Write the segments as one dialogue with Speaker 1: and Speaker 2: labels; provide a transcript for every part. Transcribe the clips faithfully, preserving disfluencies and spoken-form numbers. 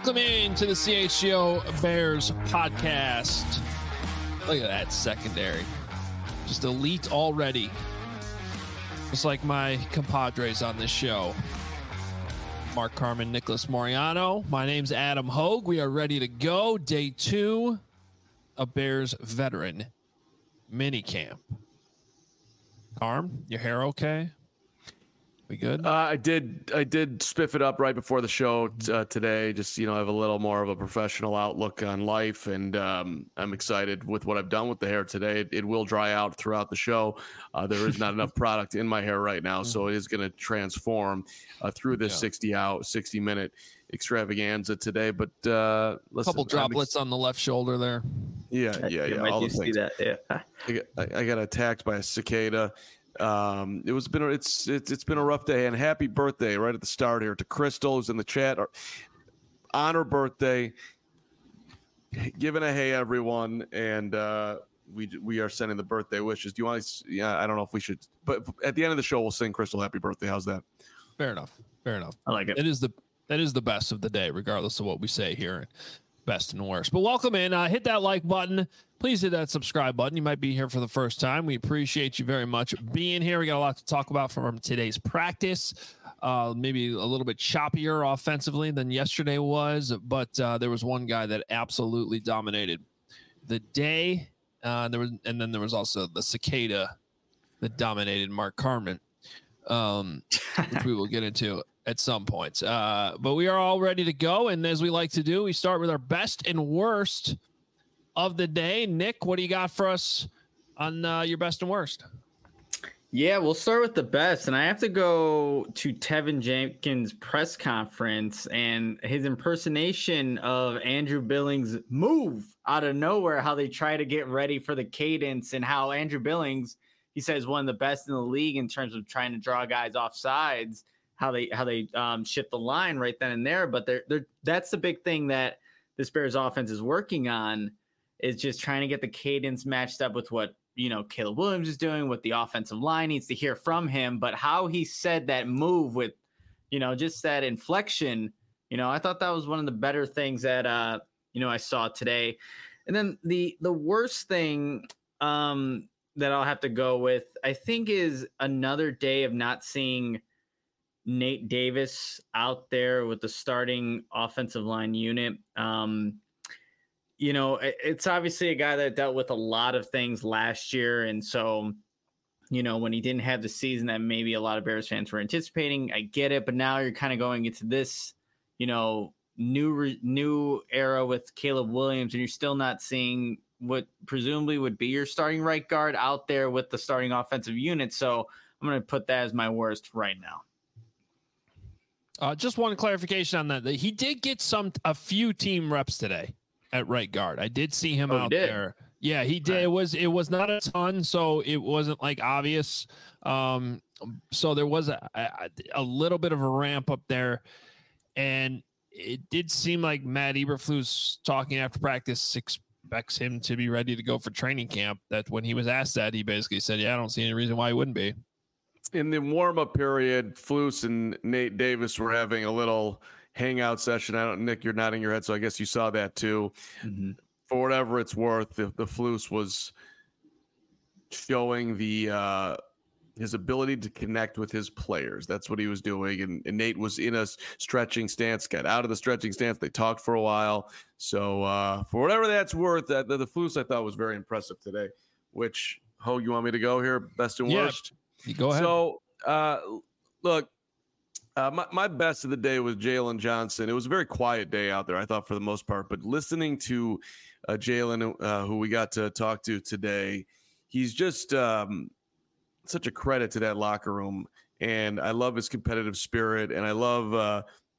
Speaker 1: Welcome in to the C H G O Bears podcast. Look at that secondary. Just elite already. Just like my compadres on this show. Mark Carman, Nicholas Moriano. My name's Adam Hogue. We are ready to go. Day two of Bears veteran minicamp. Carm, your hair okay? We good?
Speaker 2: Uh, I did. I did spiff it up right before the show uh, today. Just you know, have a little more of a professional outlook on life, and um, I'm excited with what I've done with the hair today. It, it will dry out throughout the show. Uh, there is not enough product in my hair right now, so it is going to transform uh, through this yeah. sixty out, sixty minute extravaganza today. But uh, listen,
Speaker 1: a couple droplets ex- on the left shoulder there.
Speaker 2: Yeah, yeah, yeah. All the things. That, yeah. I, got, I got attacked by a cicada. Um, it was been it's it's it's been a rough day, and happy birthday right at the start here to Crystal, who's in the chat. On her birthday, giving a hey everyone, and uh, we we are sending the birthday wishes. Do you want to? Yeah, I don't know if we should, but at the end of the show, we'll sing Crystal happy birthday. How's that?
Speaker 1: Fair enough. Fair enough.
Speaker 3: I like it.
Speaker 1: It is the that is the best of the day, regardless of what we say here. Best and worst. But welcome in. Uh, hit that like button. Please hit that subscribe button. You might be here for the first time. We appreciate you very much being here. We got a lot to talk about from today's practice. Uh, maybe a little bit choppier offensively than yesterday was, but uh, there was one guy that absolutely dominated the day. Uh, there was, and then there was also the cicada that dominated Mark Carman, um, which we will get into at some points. Uh, but we are all ready to go. And as we like to do, we start with our best and worst of the day. Nick, what do you got for us on uh, your best and worst?
Speaker 3: Yeah, we'll start with the best. And I have to go to Tevin Jenkins' press conference and his impersonation of Andrew Billings' move out of nowhere, how they try to get ready for the cadence, and how Andrew Billings, he says, one of the best in the league in terms of trying to draw guys off sides. How they how they um, shift the line right then and there, but they're, they're that's the big thing that this Bears offense is working on, is just trying to get the cadence matched up with what you know Caleb Williams is doing, what the offensive line needs to hear from him. But how he said that move with, you know, just that inflection, you know, I thought that was one of the better things that uh, you know I saw today. And then the the worst thing um, that I'll have to go with, I think, is another day of not seeing Nate Davis out there with the starting offensive line unit. Um, you know, it, it's obviously a guy that dealt with a lot of things last year. And so, you know, when he didn't have the season that maybe a lot of Bears fans were anticipating, I get it. But now you're kind of going into this, you know, new, new era with Caleb Williams, and you're still not seeing what presumably would be your starting right guard out there with the starting offensive unit. So I'm going to put that as my worst right now.
Speaker 1: Uh, just one clarification on that. He did get some a few team reps today at right guard. I did see him
Speaker 3: oh,
Speaker 1: out there. Yeah, he did. Right. It was it was not a ton, so it wasn't like obvious. Um, so there was a, a a little bit of a ramp up there, and it did seem like Matt Eberflus talking after practice expects him to be ready to go for training camp. That when he was asked that, he basically said, "Yeah, I don't see any reason why he wouldn't be."
Speaker 2: In the warm-up period, Flus and Nate Davis were having a little hangout session. I don't, Nick, you're nodding your head, so I guess you saw that too. Mm-hmm. For whatever it's worth, the, the Flus was showing the uh, his ability to connect with his players. That's what he was doing, and, and Nate was in a stretching stance, got out of the stretching stance. They talked for a while. So uh, for whatever that's worth, that the, the Flus I thought was very impressive today. Which, Ho, you want me to go here? Best and
Speaker 1: yeah.
Speaker 2: worst?
Speaker 1: You go ahead.
Speaker 2: So, uh, look, uh, my, my best of the day was Jalen Johnson. It was a very quiet day out there, I thought, for the most part. But listening to uh, Jalen, uh, who we got to talk to today, he's just um, such a credit to that locker room. And I love his competitive spirit. And I love uh,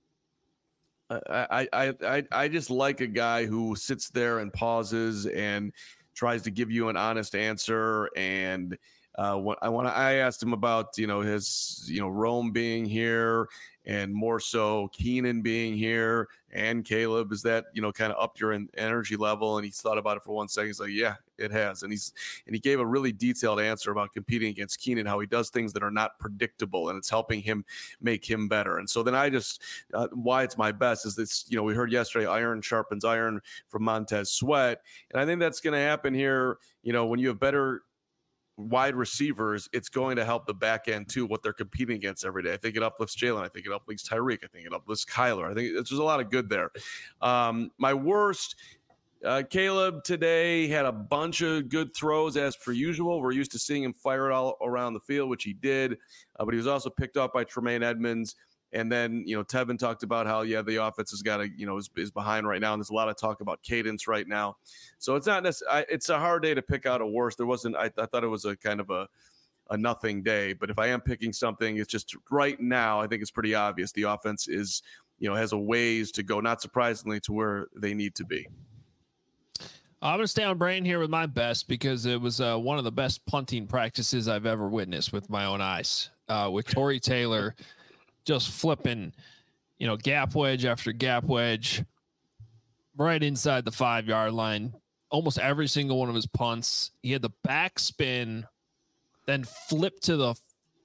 Speaker 2: – I, I, I, I just like a guy who sits there and pauses and tries to give you an honest answer. And – Uh, what I want to, I asked him about, you know, his, you know, Rome being here and more so Keenan being here and Caleb. Is that, you know, kind of upped your energy level? And he's thought about it for one second. He's like, yeah, it has. And he's and he gave a really detailed answer about competing against Keenan, how he does things that are not predictable, and it's helping him make him better. And so then I just uh, why it's my best is this. You know, we heard yesterday, iron sharpens iron from Montez Sweat, and I think that's going to happen here. You know, when you have better wide receivers, it's going to help the back end too, what they're competing against every day. I think it uplifts Jalen. I think it uplifts Tyreek. I think it uplifts Kyler. I think there's a lot of good there. Um, my worst, uh, Caleb today had a bunch of good throws as per usual. We're used to seeing him fire it all around the field, which he did, uh, but he was also picked up by Tremaine Edmonds. And then, you know, Tevin talked about how, yeah, the offense has got to, you know, is, is behind right now. And there's a lot of talk about cadence right now. So it's not necessarily, it's a hard day to pick out a worst. There wasn't, I, I thought it was a kind of a, a nothing day. But if I am picking something, it's just right now, I think it's pretty obvious. The offense is, you know, has a ways to go, not surprisingly, to where they need to be.
Speaker 1: I'm going to stay on brain here with my best because it was uh, one of the best punting practices I've ever witnessed with my own eyes uh, with Tory Taylor. Just flipping, you know, gap wedge after gap wedge right inside the five yard line. Almost every single one of his punts. He had the back spin, then flip to the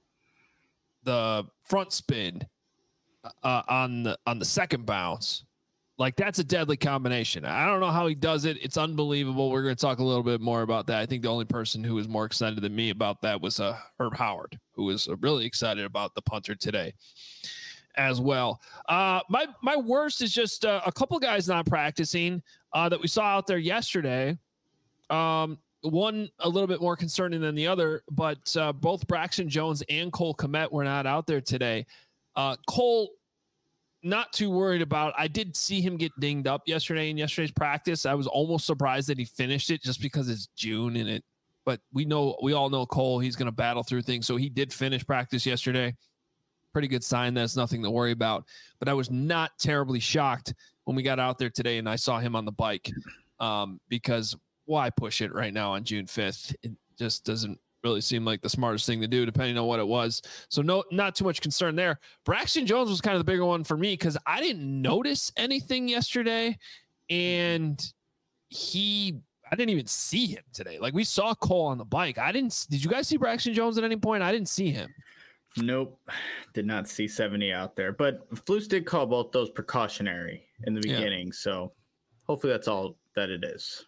Speaker 1: the front spin uh, on the on the second bounce. Like, that's a deadly combination. I don't know how he does it. It's unbelievable. We're going to talk a little bit more about that. I think the only person who was more excited than me about that was uh, Herb Howard, who was really excited about the punter today as well. Uh, my my worst is just uh, a couple guys not practicing uh, that we saw out there yesterday. Um, one a little bit more concerning than the other, but uh, both Braxton Jones and Cole Kmet were not out there today. Uh, Cole, not too worried about. I did see him get dinged up yesterday in yesterday's practice. I was almost surprised that he finished it just because it's June and it, but we know, we all know Cole, he's going to battle through things. So he did finish practice yesterday. Pretty good sign. That's nothing to worry about, but I was not terribly shocked when we got out there today and I saw him on the bike um, because why push it right now on June fifth? It just doesn't really seemed like the smartest thing to do, depending on what it was. So no, not too much concern there. Braxton Jones was kind of the bigger one for me because I didn't notice anything yesterday, and he, I didn't even see him today. Like, we saw Cole on the bike. I didn't. Did you guys see Braxton Jones at any point? I didn't see him.
Speaker 3: Nope, did not see seventy out there. But Flus did call both those precautionary in the beginning, yeah. So hopefully that's all that it is.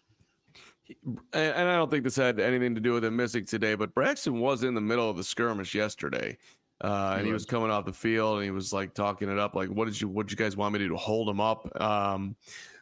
Speaker 2: And I don't think this had anything to do with him missing today, but Braxton was in the middle of the skirmish yesterday, uh, and he was. he was coming off the field, and he was like talking it up, like, "What did you, what did you guys want me to do to hold him up?" Um,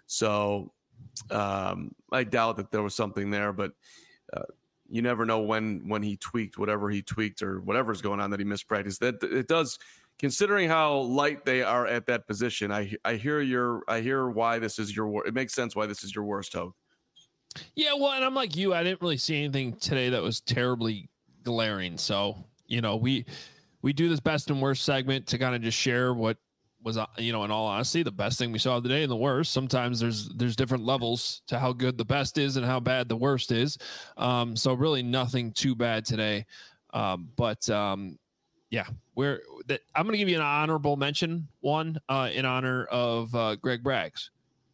Speaker 2: so um, I doubt that there was something there, but uh, you never know when when he tweaked whatever he tweaked or whatever's going on that he missed practice. That it does, considering how light they are at that position. I I hear your I hear why this is your. It makes sense why this is your worst hope.
Speaker 1: Yeah, well, and I'm like you. I didn't really see anything today that was terribly glaring. So, you know, we we do this best and worst segment to kind of just share what was, uh, you know, in all honesty, the best thing we saw today and the worst. Sometimes there's there's different levels to how good the best is and how bad the worst is. Um, so really nothing too bad today. Um, but um, yeah, we're that I'm going to give you an honorable mention one uh, in honor of uh, Greg Braggs,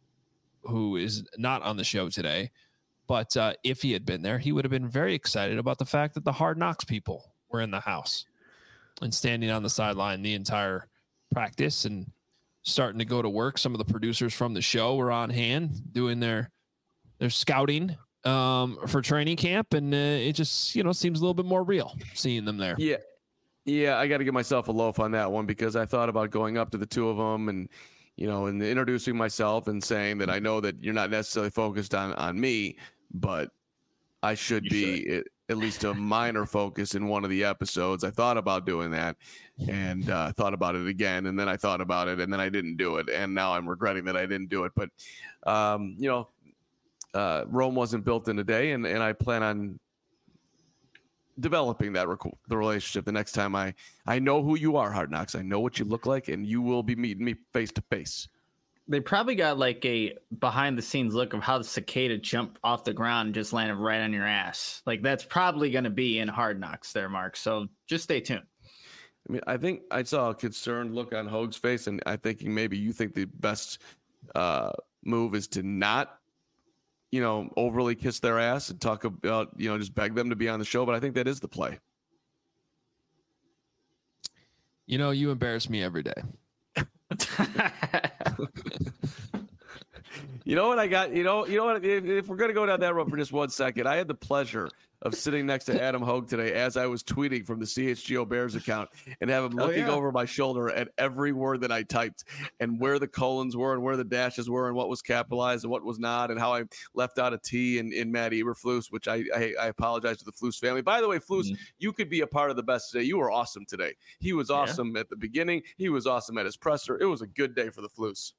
Speaker 1: who is not on the show today. But uh, if he had been there, he would have been very excited about the fact that the Hard Knocks people were in the house and standing on the sideline the entire practice and starting to go to work. Some of the producers from the show were on hand doing their their scouting um, for training camp, and uh, it just, you know, seems a little bit more real seeing them there.
Speaker 2: Yeah, yeah, I got to give myself a loaf on that one because I thought about going up to the two of them and, you know, and introducing myself and saying that I know that you're not necessarily focused on on me, but I should you be should. At, at least a minor focus in one of the episodes. I thought about doing that and uh, thought about it again. And then I thought about it and then I didn't do it. And now I'm regretting that I didn't do it. But, um, you know, uh, Rome wasn't built in a day, and, and I plan on developing that rec- the relationship the next time I, I know who you are, Hard Knocks. I know what you look like, and you will be meeting me face to face.
Speaker 3: They probably got like a behind the scenes look of how the cicada jumped off the ground and just landed right on your ass. Like, that's probably going to be in Hard Knocks there, Mark. So just stay tuned.
Speaker 2: I mean, I think I saw a concerned look on Hoag's face, and I'm thinking maybe you think the best uh, move is to not you know, overly kiss their ass and talk about, you know, just beg them to be on the show. But I think that is the play.
Speaker 1: You know, you embarrass me every day.
Speaker 2: You know what I got? You know, you know what? If, if we're gonna go down that road for just one second, I had the pleasure of sitting next to Adam Hogue today as I was tweeting from the C H G O Bears account and have him looking
Speaker 3: oh, yeah.
Speaker 2: over my shoulder at every word that I typed and where the colons were and where the dashes were and what was capitalized and what was not and how I left out a T in, in Matt Eberflus, which I, I I apologize to the Flus family. By the way, Flus, mm-hmm. you could be a part of the best today. You were awesome today. He was awesome yeah. at the beginning. He was awesome at his presser. It was a good day for the Flus.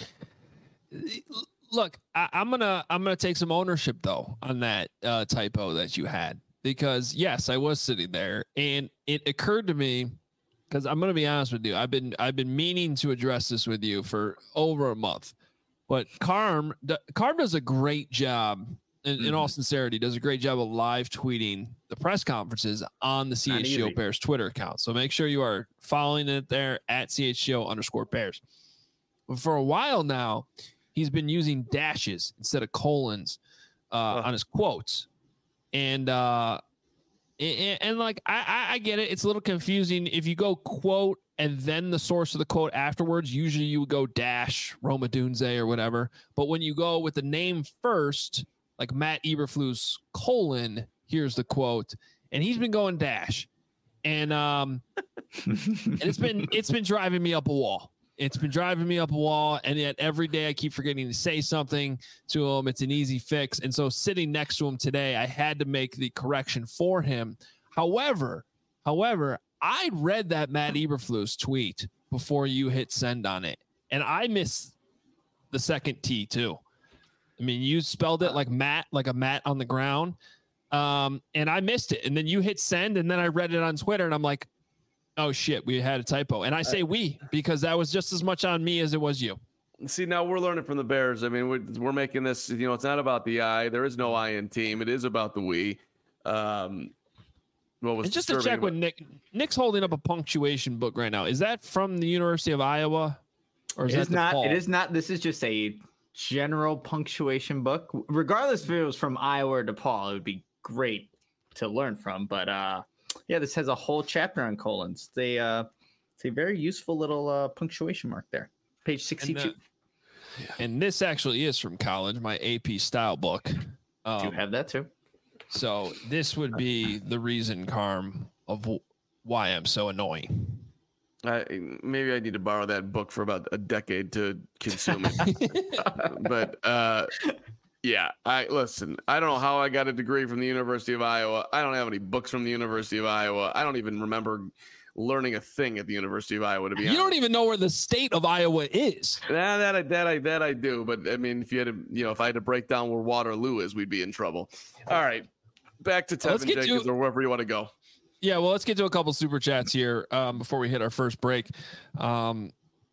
Speaker 1: Look, I, I'm gonna I'm gonna take some ownership though on that uh, typo that you had, because yes, I was sitting there and it occurred to me, because I'm gonna be honest with you, I've been I've been meaning to address this with you for over a month, but Carm Carm does a great job. In, mm-hmm. in all sincerity, does a great job of live tweeting the press conferences on the C H G O Bears Twitter account. So make sure you are following it there at C H G O underscore Bears. But for a while now, he's been using dashes instead of colons uh, oh. on his quotes. And, uh, and, and like, I, I get it. It's a little confusing. If you go quote and then the source of the quote afterwards, usually you would go dash Roma Dunze or whatever. But when you go with the name first, like Matt Eberflus colon, here's the quote. And he's been going dash. And, um, and it's been, it's been driving me up a wall. It's been driving me up a wall, and yet every day I keep forgetting to say something to him. It's an easy fix. And so sitting next to him today, I had to make the correction for him. However, however, I read that Matt Eberflus tweet before you hit send on it, and I missed the second T too. I mean, you spelled it like Matt, like a mat on the ground, um, and I missed it. And then you hit send, and then I read it on Twitter, and I'm like, oh shit, we had a typo. And I say we, because that was just as much on me as it was you.
Speaker 2: See, now we're learning from the Bears. I mean, we're, we're making this, you know, it's not about the I. There is no I in team. It is about the we. Um, what was
Speaker 1: and just to check with Nick, Nick's holding up a punctuation book right now. Is that from the University of Iowa? Or is
Speaker 3: it
Speaker 1: that
Speaker 3: is not,
Speaker 1: Paul?
Speaker 3: It is not. This is just a general punctuation book. Regardless if it was from Iowa or DePaul, it would be great to learn from. But, uh, yeah, this has a whole chapter on colons. They uh, it's a very useful little uh, punctuation mark there. Page sixty-two.
Speaker 1: And, uh, and this actually is from college, my A P style book. Um,
Speaker 3: you have that too.
Speaker 1: So this would be the reason, Carm, of w- why I'm so annoying.
Speaker 2: I, maybe I need to borrow that book for about a decade to consume it. but uh, yeah, I listen. I don't know how I got a degree from the University of Iowa. I don't have any books from the University of Iowa. I don't even remember learning a thing at the University of Iowa. To be
Speaker 1: you
Speaker 2: honest,
Speaker 1: don't even know where the state of Iowa is.
Speaker 2: Nah, that I that I that I do. But I mean, if you had to, you know, if I had to break down where Waterloo is, we'd be in trouble. All right, back to Tevin Jenkins to, or wherever you want to go.
Speaker 1: Yeah, well, let's get to a couple super chats here um, before we hit our first break. Um,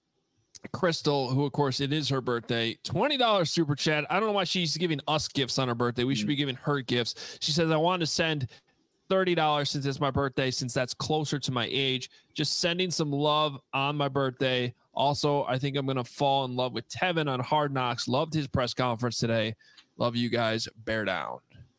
Speaker 1: Crystal, who, of course, it is her birthday, twenty dollars super chat. I don't know why she's giving us gifts on her birthday. We should be giving her gifts. She says, I want to send thirty dollars since it's my birthday, since that's closer to my age. Just sending some love on my birthday. Also, I think I'm going to fall in love with Tevin on Hard Knocks. Loved his press conference today. Love you guys. Bear down.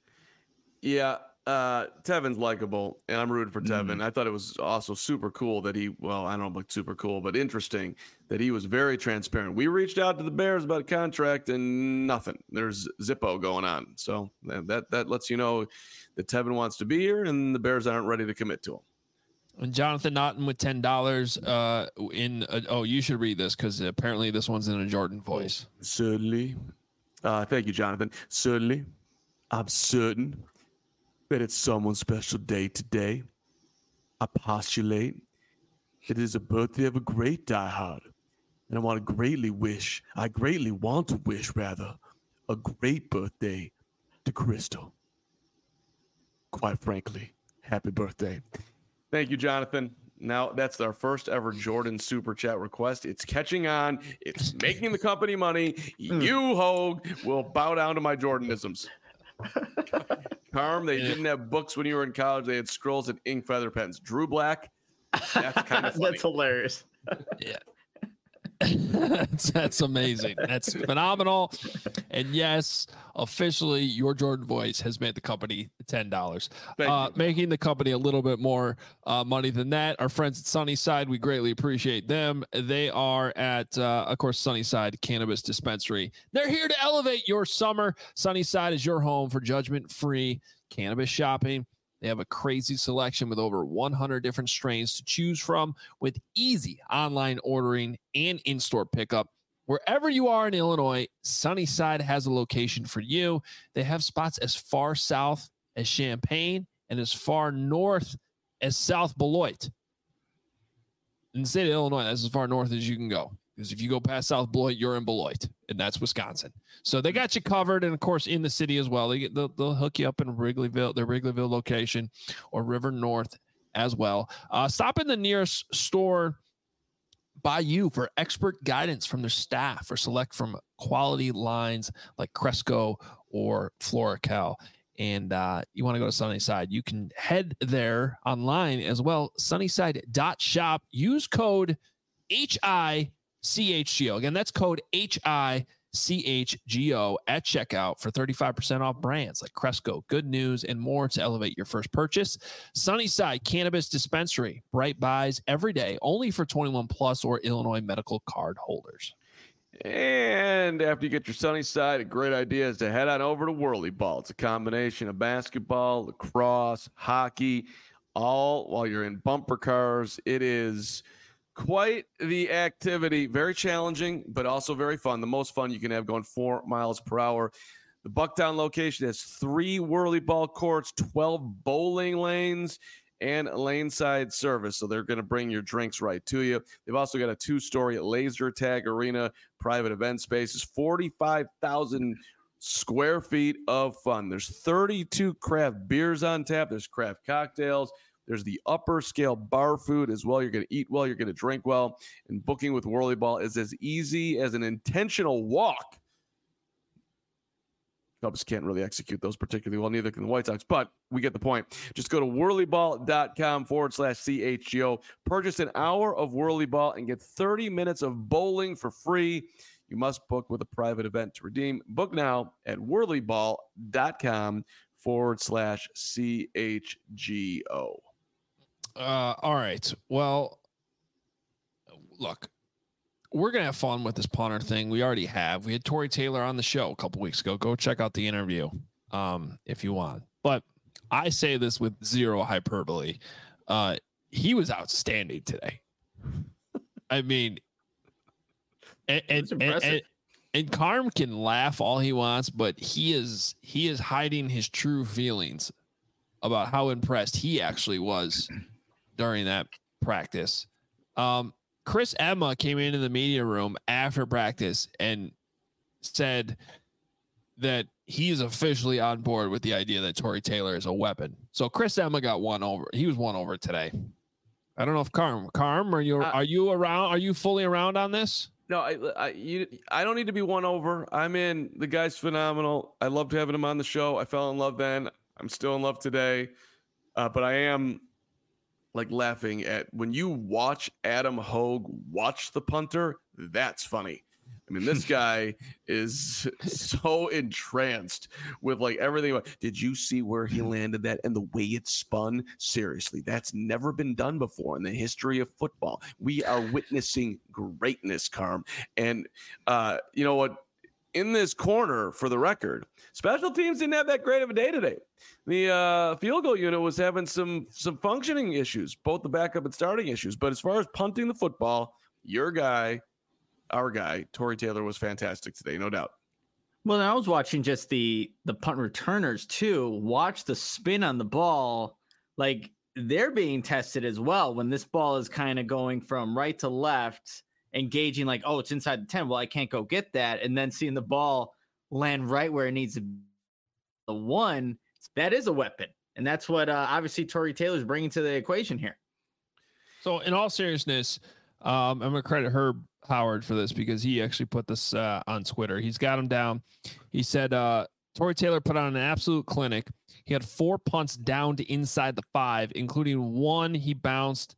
Speaker 2: Yeah. Uh, Tevin's likable, and I'm rooting for Tevin.
Speaker 3: Mm.
Speaker 2: I thought it was also super cool that he, well, I don't know about super cool, but interesting that he was very transparent. We reached out to the Bears about a contract and nothing. There's Zippo going on. So that, that lets you know that Tevin wants to be here and the Bears aren't ready to commit to him.
Speaker 1: And Jonathan Naughton with ten dollars uh, in, a, oh, you should read this because apparently this one's in a Jordan voice.
Speaker 2: Certainly. Uh, thank you, Jonathan. Certainly. I'm certain that it's someone's special day today. I postulate that it is a birthday of a great diehard. And I want to greatly wish, I greatly want to wish, rather, a great birthday to Crystal. Quite frankly, happy birthday. Thank you, Jonathan. Now, that's our first ever Jordan Super Chat request. It's catching on. It's making the company money. You, Hogue, will bow down to my Jordanisms. Carm, they didn't have books when you were in college. They had scrolls and ink feather pens. Drew Black, that's kind of funny.
Speaker 3: That's hilarious.
Speaker 1: Yeah. that's, that's amazing. That's phenomenal. And yes, officially, your Jordan voice has made the company ten dollars, uh, making the company a little bit more uh, money than that. Our friends at Sunnyside, we greatly appreciate them. They are at, uh, of course, Sunnyside Cannabis Dispensary. They're here to elevate your summer. Sunnyside is your home for judgment-free cannabis shopping. They have a crazy selection with over one hundred different strains to choose from, with easy online ordering and in-store pickup. Wherever you are in Illinois, Sunnyside has a location for you. They have spots as far south as Champaign and as far north as South Beloit. In the state of Illinois, that's as far north as you can go. Because if you go past South Beloit, you're in Beloit, and that's Wisconsin. So they got you covered, and of course in the city as well. They get they'll, they'll hook you up in Wrigleyville, their Wrigleyville location, or River North as well. Uh, stop in the nearest store by you for expert guidance from their staff, or select from quality lines like Cresco or Floracal. And uh, you want to go to Sunnyside, you can head there online as well. Sunnyside dot shop. Use code H I C H G O. Again, that's code H I C H G O at checkout for thirty-five percent off brands like Cresco, Good News, and more to elevate your first purchase. Sunnyside Cannabis Dispensary. Bright buys every day, only for twenty-one plus or Illinois medical card holders.
Speaker 2: And after you get your Sunnyside, a great idea is to head on over to Whirly Ball. It's a combination of basketball, lacrosse, hockey, all while you're in bumper cars. It is quite the activity, very challenging, but also very fun. The most fun you can have, going four miles per hour. The Bucktown location has three Whirly Ball courts, twelve bowling lanes, and a lane-side service. So they're going to bring your drinks right to you. They've also got a two-story laser tag arena, private event spaces, forty-five thousand square feet of fun. There's thirty-two craft beers on tap. There's craft cocktails. There's the upper scale bar food as well. You're going to eat well. You're going to drink well. And booking with Whirly Ball is as easy as an intentional walk. Cubs can't really execute those particularly well, neither can the White Sox, but we get the point. Just go to whirlyball.com forward slash CHGO. Purchase an hour of Whirly Ball and get thirty minutes of bowling for free. You must book with a private event to redeem. Book now at whirlyball.com forward slash CHGO.
Speaker 1: Uh, all right. Well, look, we're going to have fun with this punter thing. We already have. We had Tory Taylor on the show a couple weeks ago. Go check out the interview um, if you want. But I say this with zero hyperbole. Uh, he was outstanding today. I mean, and and, and, and and Carm can laugh all he wants, but he is he is hiding his true feelings about how impressed he actually was during that practice. Um, Chris Emma came into the media room after practice and said that he's officially on board with the idea that Tory Taylor is a weapon. So Chris Emma got one over. He was won over today. I don't know if Carm, Carm, are you, uh, are you around? Are you fully around on this?
Speaker 2: No, I, I, you, I don't need to be won over. I'm in. The guy's phenomenal. I loved having him on the show. I fell in love then. I'm still in love today. Uh, but I am like laughing at when you watch Adam Hogue watch the punter. That's funny. I mean, this guy is so entranced with like everything. Did you see where he landed that and the way it spun? Seriously, that's never been done before in the history of football. We are witnessing greatness, Carm. And uh, you know what? In this corner, for the record, special teams didn't have that great of a day today. The uh, field goal unit was having some some functioning issues, both the backup and starting issues. But as far as punting the football, your guy, our guy, Tory Taylor, was fantastic today, no doubt.
Speaker 3: Well, I was watching just the the punt returners too. Watch the spin on the ball, like they're being tested as well. When this ball is kind of going from right to left, engaging like, oh, it's inside the ten. Well, I can't go get that. And then seeing the ball land right where it needs to be. The one, that is a weapon. And that's what uh, obviously Tory Taylor's bringing to the equation here.
Speaker 1: So in all seriousness, um, I'm going to credit Herb Howard for this because he actually put this uh, on Twitter. He's got him down. He said, uh, Tory Taylor put on an absolute clinic. He had four punts down to inside the five, including one he bounced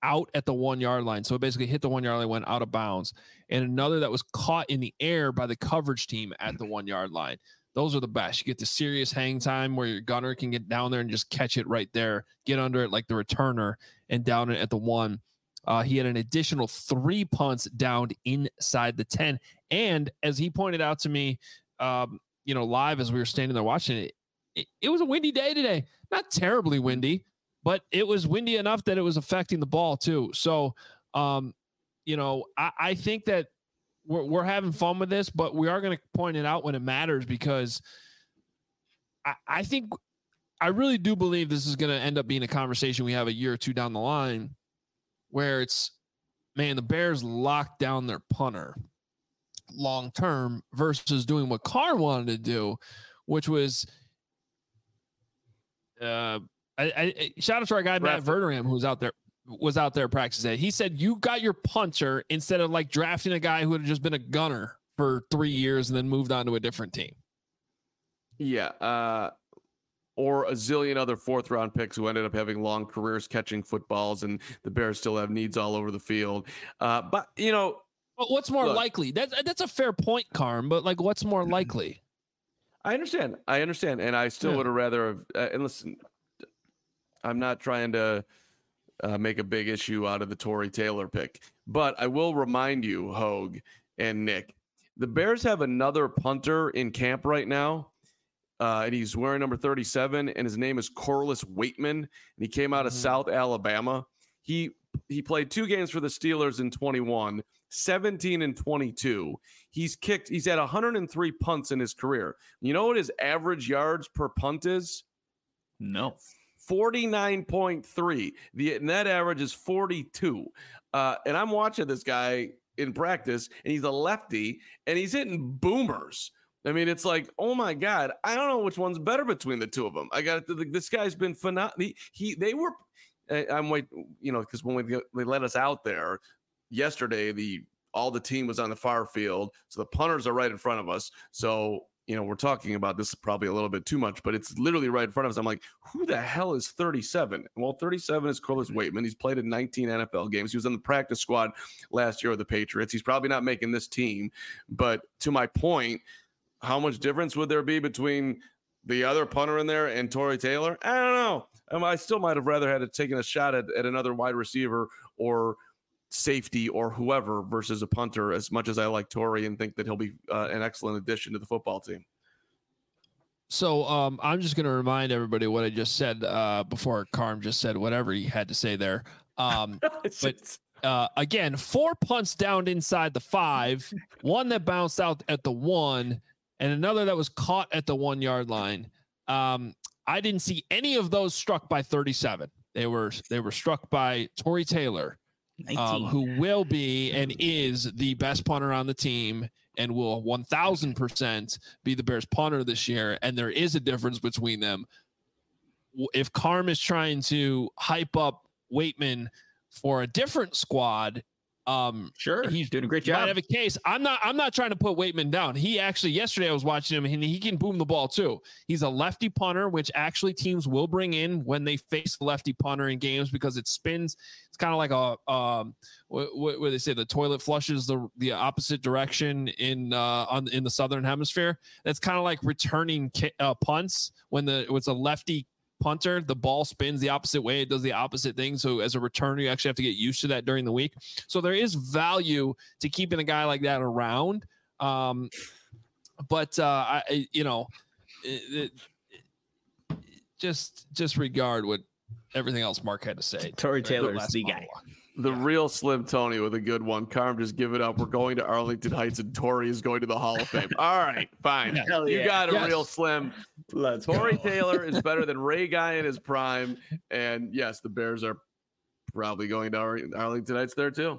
Speaker 1: out at the one yard line. So it basically hit the one yard line, went out of bounds, and another that was caught in the air by the coverage team at the one yard line. Those are the best. You get the serious hang time where your gunner can get down there and just catch it right there, get under it like the returner and down it at the one. Uh, he had an additional three punts downed inside the ten. And as he pointed out to me, um, you know, live as we were standing there watching it, it, it was a windy day today. Not terribly windy, but it was windy enough that it was affecting the ball too. So, um, you know, I, I think that we're, we're having fun with this, but we are going to point it out when it matters, because I, I think I really do believe this is going to end up being a conversation we have a year or two down the line, where it's, man, the Bears locked down their punter long term versus doing what Carr wanted to do, which was uh, I, I shout out to our guy Matt Verderam, who was out there was out there practicing. He said you got your punter instead of like drafting a guy who had just been a gunner for three years and then moved on to a different team.
Speaker 2: Yeah, uh, or a zillion other fourth round picks who ended up having long careers catching footballs, and the Bears still have needs all over the field. Uh, but you know,
Speaker 1: but what's more
Speaker 2: look,
Speaker 1: likely? That's that's a fair point, Carm. But like, what's more likely?
Speaker 2: I understand. I understand, and I still
Speaker 1: Yeah.
Speaker 2: would have rather have. Uh, and listen, I'm not trying to uh, make a big issue out of the Tory Taylor pick, but I will remind you, Hogue and Nick, the Bears have another punter in camp right now. Uh, and he's wearing number thirty-seven, and his name is Corliss Waitman, and he came out of mm-hmm. South Alabama. He he played two games for the Steelers in twenty-one, seventeen and twenty-two. He's kicked, he's had one hundred three punts in his career. You know what his average yards per punt is?
Speaker 3: No.
Speaker 2: forty-nine point three. The net average is forty-two. Uh, and I'm watching this guy in practice, and he's a lefty, and he's hitting boomers. I mean, it's like, oh my God, I don't know which one's better between the two of them. I got to, this guy's been phenomenal. He, he, they were, I'm wait, you know, because when we they let us out there yesterday, the all the team was on the far field, so the punters are right in front of us. So you know, we're talking about this probably a little bit too much, but it's literally right in front of us. I'm like, who the hell is thirty-seven? Well, thirty-seven is Corliss Waitman. He's played in nineteen N F L games. He was on the practice squad last year with the Patriots. He's probably not making this team, but to my point, how much difference would there be between the other punter in there and Tory Taylor? I don't know. Um, I still might have rather had it taken a shot at, at another wide receiver or safety or whoever versus a punter, as much as I like Tory and think that he'll be uh, an excellent addition to the football team.
Speaker 1: So um, I'm just going to remind everybody what I just said uh, before Carm just said whatever he had to say there. Um, but uh, again, four punts downed inside the five, one that bounced out at the one, and another that was caught at the one yard line. Um, I didn't see any of those struck by thirty-seven. They were they were struck by Tory Taylor, um, who will be and is the best punter on the team and will one thousand percent be the Bears punter this year. And there is a difference between them. If Carm is trying to hype up Waitman for a different squad, um,
Speaker 3: sure,
Speaker 1: he's
Speaker 3: doing a great
Speaker 1: might
Speaker 3: job.
Speaker 1: have a case. I'm not. I'm not trying to put Waitman down. He actually yesterday I was watching him, and he can boom the ball too. He's a lefty punter, which actually teams will bring in when they face a lefty punter in games because it spins. It's kind of like a um, what, what they say the toilet flushes the the opposite direction in uh on in the southern hemisphere. That's kind of like returning uh, punts when the it's a lefty punter, the ball spins the opposite way, it does the opposite thing. So as a returner, you actually have to get used to that during the week. So there is value to keeping a guy like that around. Um, but uh, I, you know, it, it, just just regard what everything else Mark had to say.
Speaker 3: Tory Taylor's the guy.
Speaker 2: The
Speaker 1: yeah.
Speaker 2: real Slim Tony with a good one. Carm, just give it up. We're going to Arlington Heights, and Tory is going to the Hall of Fame. All right, fine.
Speaker 3: Hell
Speaker 2: you
Speaker 3: yeah.
Speaker 2: got a
Speaker 1: Yes.
Speaker 2: real Slim.
Speaker 3: Let's
Speaker 2: Tory
Speaker 3: go.
Speaker 2: Taylor is better than Ray Guy in his prime. And yes, the Bears are probably going to Ar- Arlington Heights there too.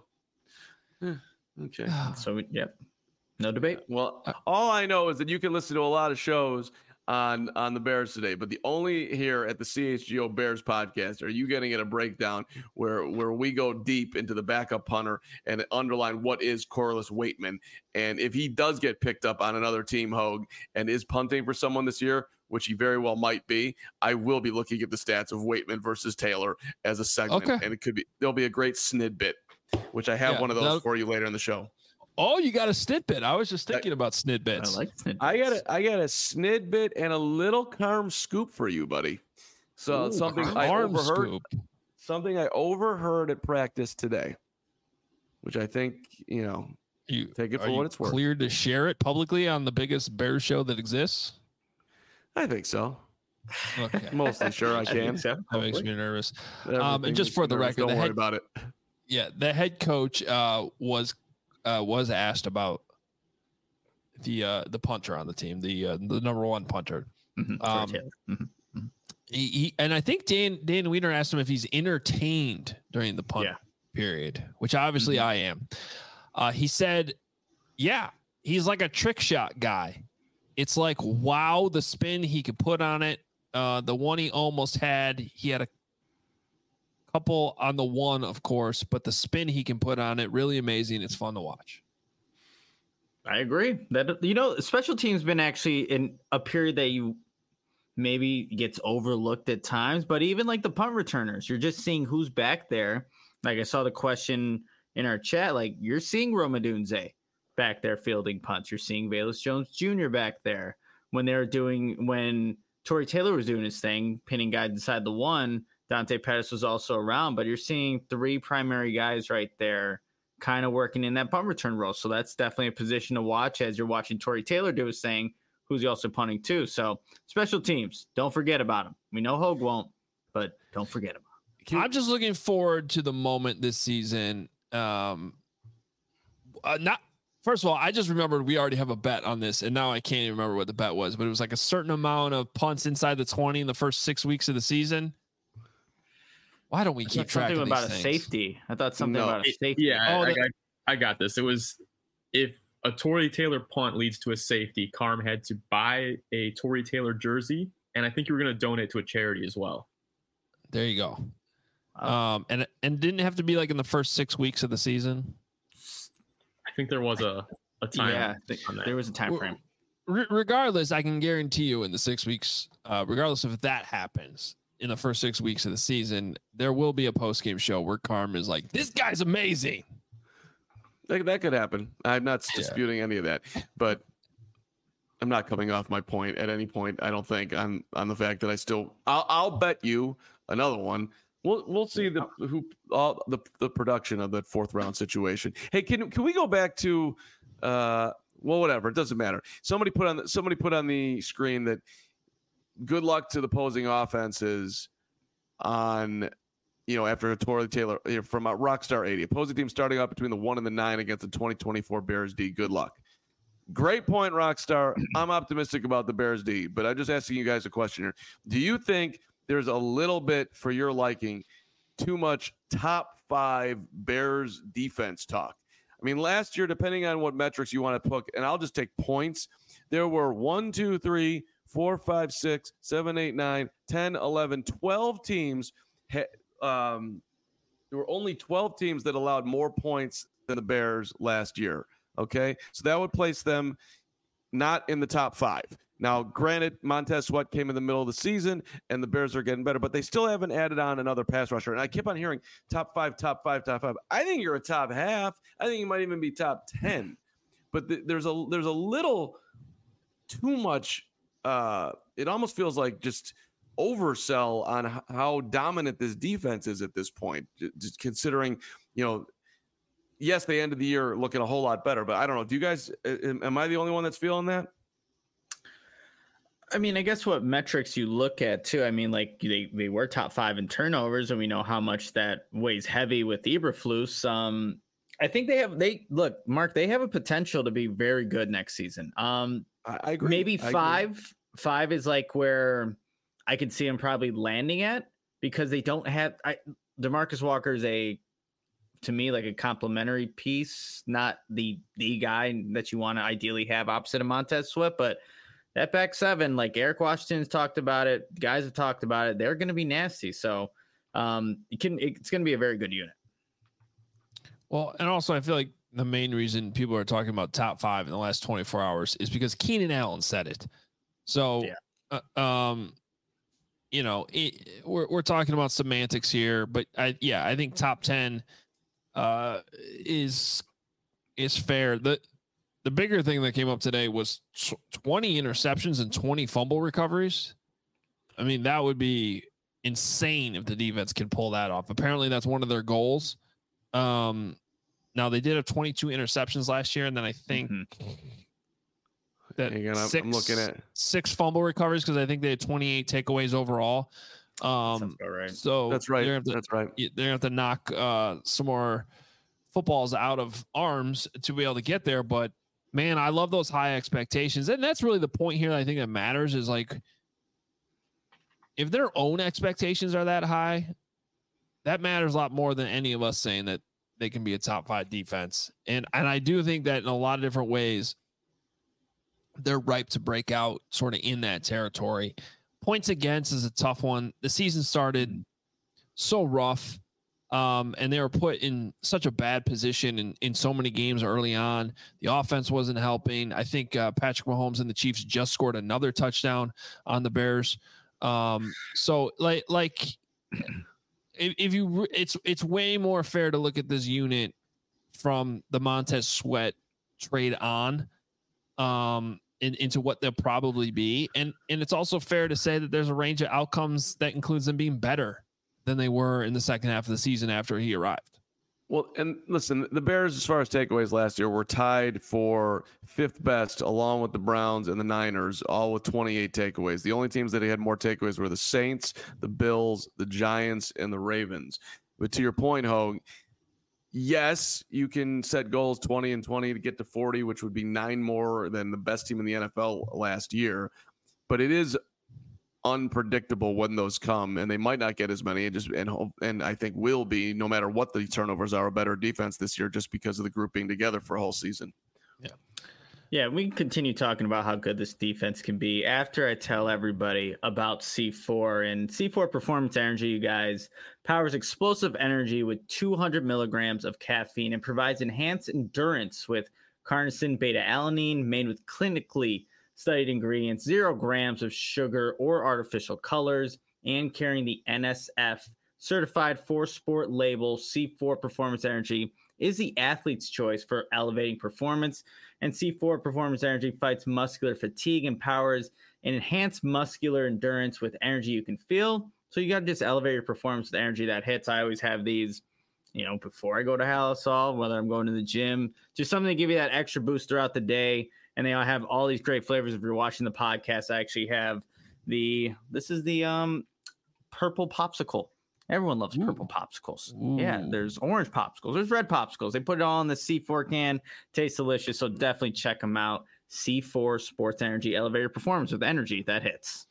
Speaker 2: Okay.
Speaker 3: So, yep. No debate.
Speaker 2: Well, all I know is that you can listen to a lot of shows on on the Bears today, but the only here at the C H G O Bears podcast are you going to get a breakdown where where we go deep into the backup punter and underline what is Corliss Waitman, and if he does get picked up on another team, Hogue, and is punting for someone this year, which he very well might be, I will be looking at the stats of Waitman versus Taylor as a segment,
Speaker 1: Okay.
Speaker 2: and it could be there'll be a great snidbit, which I have
Speaker 1: Yeah,
Speaker 2: one of those
Speaker 1: that'll-
Speaker 2: for you later in the show.
Speaker 1: Oh, you got a snidbit. I was just thinking about snidbits.
Speaker 3: I like snidbits.
Speaker 2: I got a I got a snidbit and a little Carm scoop for you, buddy. So
Speaker 1: Ooh,
Speaker 2: something I
Speaker 1: arm
Speaker 2: overheard.
Speaker 1: scoop.
Speaker 2: Something I overheard at practice today, which I think, you know,
Speaker 1: You
Speaker 2: take it
Speaker 1: are
Speaker 2: for
Speaker 1: you
Speaker 2: what it's worth.
Speaker 1: cleared to share it publicly on the biggest Bears show that exists?
Speaker 2: I think so.
Speaker 1: Okay.
Speaker 2: Mostly sure I
Speaker 3: I think
Speaker 2: can.
Speaker 3: so,
Speaker 1: That makes
Speaker 3: hopefully.
Speaker 1: me nervous.
Speaker 2: Everything
Speaker 1: Um, and just
Speaker 2: makes
Speaker 1: for
Speaker 2: me
Speaker 1: the
Speaker 2: nervous.
Speaker 1: record,
Speaker 2: don't
Speaker 1: the
Speaker 2: worry
Speaker 1: head-
Speaker 2: about it.
Speaker 1: Yeah, the head coach uh, was uh, was asked about the uh, the punter on the team, the uh, the number one punter.
Speaker 3: Mhm, Troy
Speaker 1: Um,
Speaker 3: Taylor. Mhm.
Speaker 1: He, he and I think Dan Dan Wiener asked him if he's entertained during the punt
Speaker 3: Yeah.
Speaker 1: period, which obviously I am. Uh, he said, "Yeah, he's like a trick shot guy. It's like wow, the spin he could put on it. Uh, the one he almost had, he had a couple on the one, of course, but the spin he can put on it, really amazing. It's fun to watch."
Speaker 3: I agree that, you know, special teams been actually in a period that you maybe gets overlooked at times, but even like the punt returners, you're just seeing who's back there. Like I saw the question in our chat, like you're seeing Romadunze back there fielding punts. You're seeing Velus Jones Junior back there when they're doing, when Torrey Taylor was doing his thing, pinning guys inside the one, Dante Pettis was also around, but you're seeing three primary guys right there kind of working in that punt return role. So that's definitely a position to watch as you're watching Torrey Taylor do his thing, who's he also punting too. So special teams, don't forget about him. We know Hogue won't, but don't forget about him.
Speaker 1: I'm just looking forward to the moment this season. Um, uh, not first of all, I just remembered we already have a bet on this, and now I can't even remember what the bet was, but it was like a certain amount of punts inside the twenty in the first six weeks of the season. Why don't we
Speaker 3: I
Speaker 1: keep
Speaker 3: thought
Speaker 1: track
Speaker 3: something
Speaker 1: of
Speaker 3: about
Speaker 1: these
Speaker 3: a
Speaker 1: things?
Speaker 3: safety. I thought something
Speaker 2: No.
Speaker 3: about a
Speaker 4: It-
Speaker 3: safety.
Speaker 4: Yeah, I,
Speaker 1: Oh,
Speaker 4: I,
Speaker 1: that-
Speaker 4: got, I got this. It was if a Torrey Taylor punt leads to a safety, Carm had to buy a Torrey Taylor jersey, and I think you were going to donate to a charity as well.
Speaker 1: There you go.
Speaker 3: Oh.
Speaker 1: Um, and and didn't have to be like in the first six weeks of the season.
Speaker 4: I think there was a, a time.
Speaker 3: yeah, th-
Speaker 4: on that.
Speaker 3: there was a time frame.
Speaker 1: Re- regardless, I can guarantee you in the six weeks, uh, regardless if that happens in the first six weeks of the season, there will be a post game show where Carm is like, "This guy's amazing."
Speaker 2: That, that could happen. I'm not
Speaker 1: Yeah.
Speaker 2: disputing any of that, but I'm not coming off my point at any point. I don't think on on the fact that I still. I'll, I'll bet you another one. We'll we'll see the who all the the production of that fourth round situation. Hey, can can we go back to? Uh, well, whatever. It doesn't matter. Somebody put on the, somebody put on the screen that good luck to the opposing offenses on. You know, after a Torrey Taylor from a Rockstar eighty, opposing team starting out between the one and the nine against the twenty twenty-four Bears D. Good luck. Great point, Rockstar. I'm optimistic about the Bears D, but I'm just asking you guys a question here. Do you think there's a little bit, for your liking, too much top five Bears defense talk? I mean, last year, depending on what metrics you want to put, and I'll just take points, there were one, two, three, four, five, six, seven, eight, nine, ten, eleven, twelve teams. Um, there were only twelve teams that allowed more points than the Bears last year. Okay. So that would place them not in the top five. Now, granted, Montez Sweat came in the middle of the season and the Bears are getting better, but they still haven't added on another pass rusher. And I keep on hearing top five, top five, top five. I think you're a top half. I think you might even be top ten. But th- there's a there's a little too much. Uh, it almost feels like just oversell on h- how dominant this defense is at this point. J- Just considering, you know, yes, they ended the year looking a whole lot better, but I don't know. Do you guys? Am, am I the only one that's feeling that?
Speaker 3: I mean, I guess what metrics you look at too. I mean, like they, they were top five in turnovers, and we know how much that weighs heavy with Eberflus. Um, I think they have they look, Mark. They have a potential to be very good next season. Um,
Speaker 2: I, I agree.
Speaker 3: maybe
Speaker 2: I agree.
Speaker 3: five. Five is like where I could see them probably landing at because they don't have. I DeMarcus Walker is a to me like a complementary piece, not the the guy that you want to ideally have opposite of Montez Sweat, but. That back seven, like Eric Washington's talked about it, guys have talked about it. They're going to be nasty. So um, it can, it's going to be a very good unit.
Speaker 1: Well, and also I feel like the main reason people are talking about top five in the last twenty-four hours is because Keenan Allen said it. So
Speaker 3: Yeah.
Speaker 1: uh, um, you know, it, we're we're talking about semantics here, but I yeah, I think top ten uh, is is fair. The the bigger thing that came up today was twenty interceptions and twenty fumble recoveries. I mean, that would be insane if the defense can pull that off. Apparently, that's one of their goals. Um, now they did have twenty-two interceptions last year, and then I think mm-hmm. that
Speaker 2: Hang on,
Speaker 1: six,
Speaker 2: I'm looking at
Speaker 1: six fumble recoveries because I think they had twenty-eight takeaways overall. Um,
Speaker 3: right.
Speaker 1: So
Speaker 2: that's right.
Speaker 1: To,
Speaker 2: that's right.
Speaker 1: They're gonna have to knock uh, some more footballs out of arms to be able to get there. But man, I love those high expectations, and that's really the point here that I think that matters is like if their own expectations are that high, that matters a lot more than any of us saying that they can be a top five defense. And and I do think that in a lot of different ways, they're ripe to break out sort of in that territory. Points against is a tough one. The season started so rough, um, and they were put in such a bad position in, in so many games early on. The offense wasn't helping. I think uh, Patrick Mahomes and the Chiefs just scored another touchdown on the Bears. Um, so like, like if, if you, it's, it's way more fair to look at this unit from the Montez Sweat trade on, um, in, into what they'll probably be. And, and it's also fair to say that there's a range of outcomes that includes them being better than they were in the second half of the season after he arrived.
Speaker 2: Well, and listen, the Bears, as far as takeaways last year, were tied for fifth best along with the Browns and the Niners, all with twenty-eight takeaways. The only teams that had more takeaways were the Saints, the Bills, the Giants, and the Ravens. But to your point, Hogue, yes, you can set goals twenty and twenty to get to forty, which would be nine more than the best team in the N F L last year. But it is unpredictable when those come, and they might not get as many. And just and and I think will be, no matter what the turnovers are, a better defense this year just because of the group being together for a whole season.
Speaker 3: Yeah, yeah. We can continue talking about how good this defense can be after I tell everybody about C four and C four Performance Energy. You guys powers explosive energy with two hundred milligrams of caffeine and provides enhanced endurance with carnosine beta-alanine made with clinically studied ingredients, zero grams of sugar or artificial colors, and carrying the N S F certified for sport label. C four Performance Energy is the athlete's choice for elevating performance, and C four Performance Energy fights muscular fatigue, empowers and enhanced muscular endurance with energy you can feel. So you got to just elevate your performance with energy that hits. I always have these, you know, before I go to Halisol, whether I'm going to the gym, just something to give you that extra boost throughout the day. And they all have all these great flavors. If you're watching the podcast, I actually have the, this is the um, purple popsicle. Everyone loves Ooh. purple popsicles. Ooh. Yeah, there's orange popsicles. There's red popsicles. They put it all in the C four can. Tastes delicious. So definitely check them out. C four Sports Energy, elevator performance with energy that hits.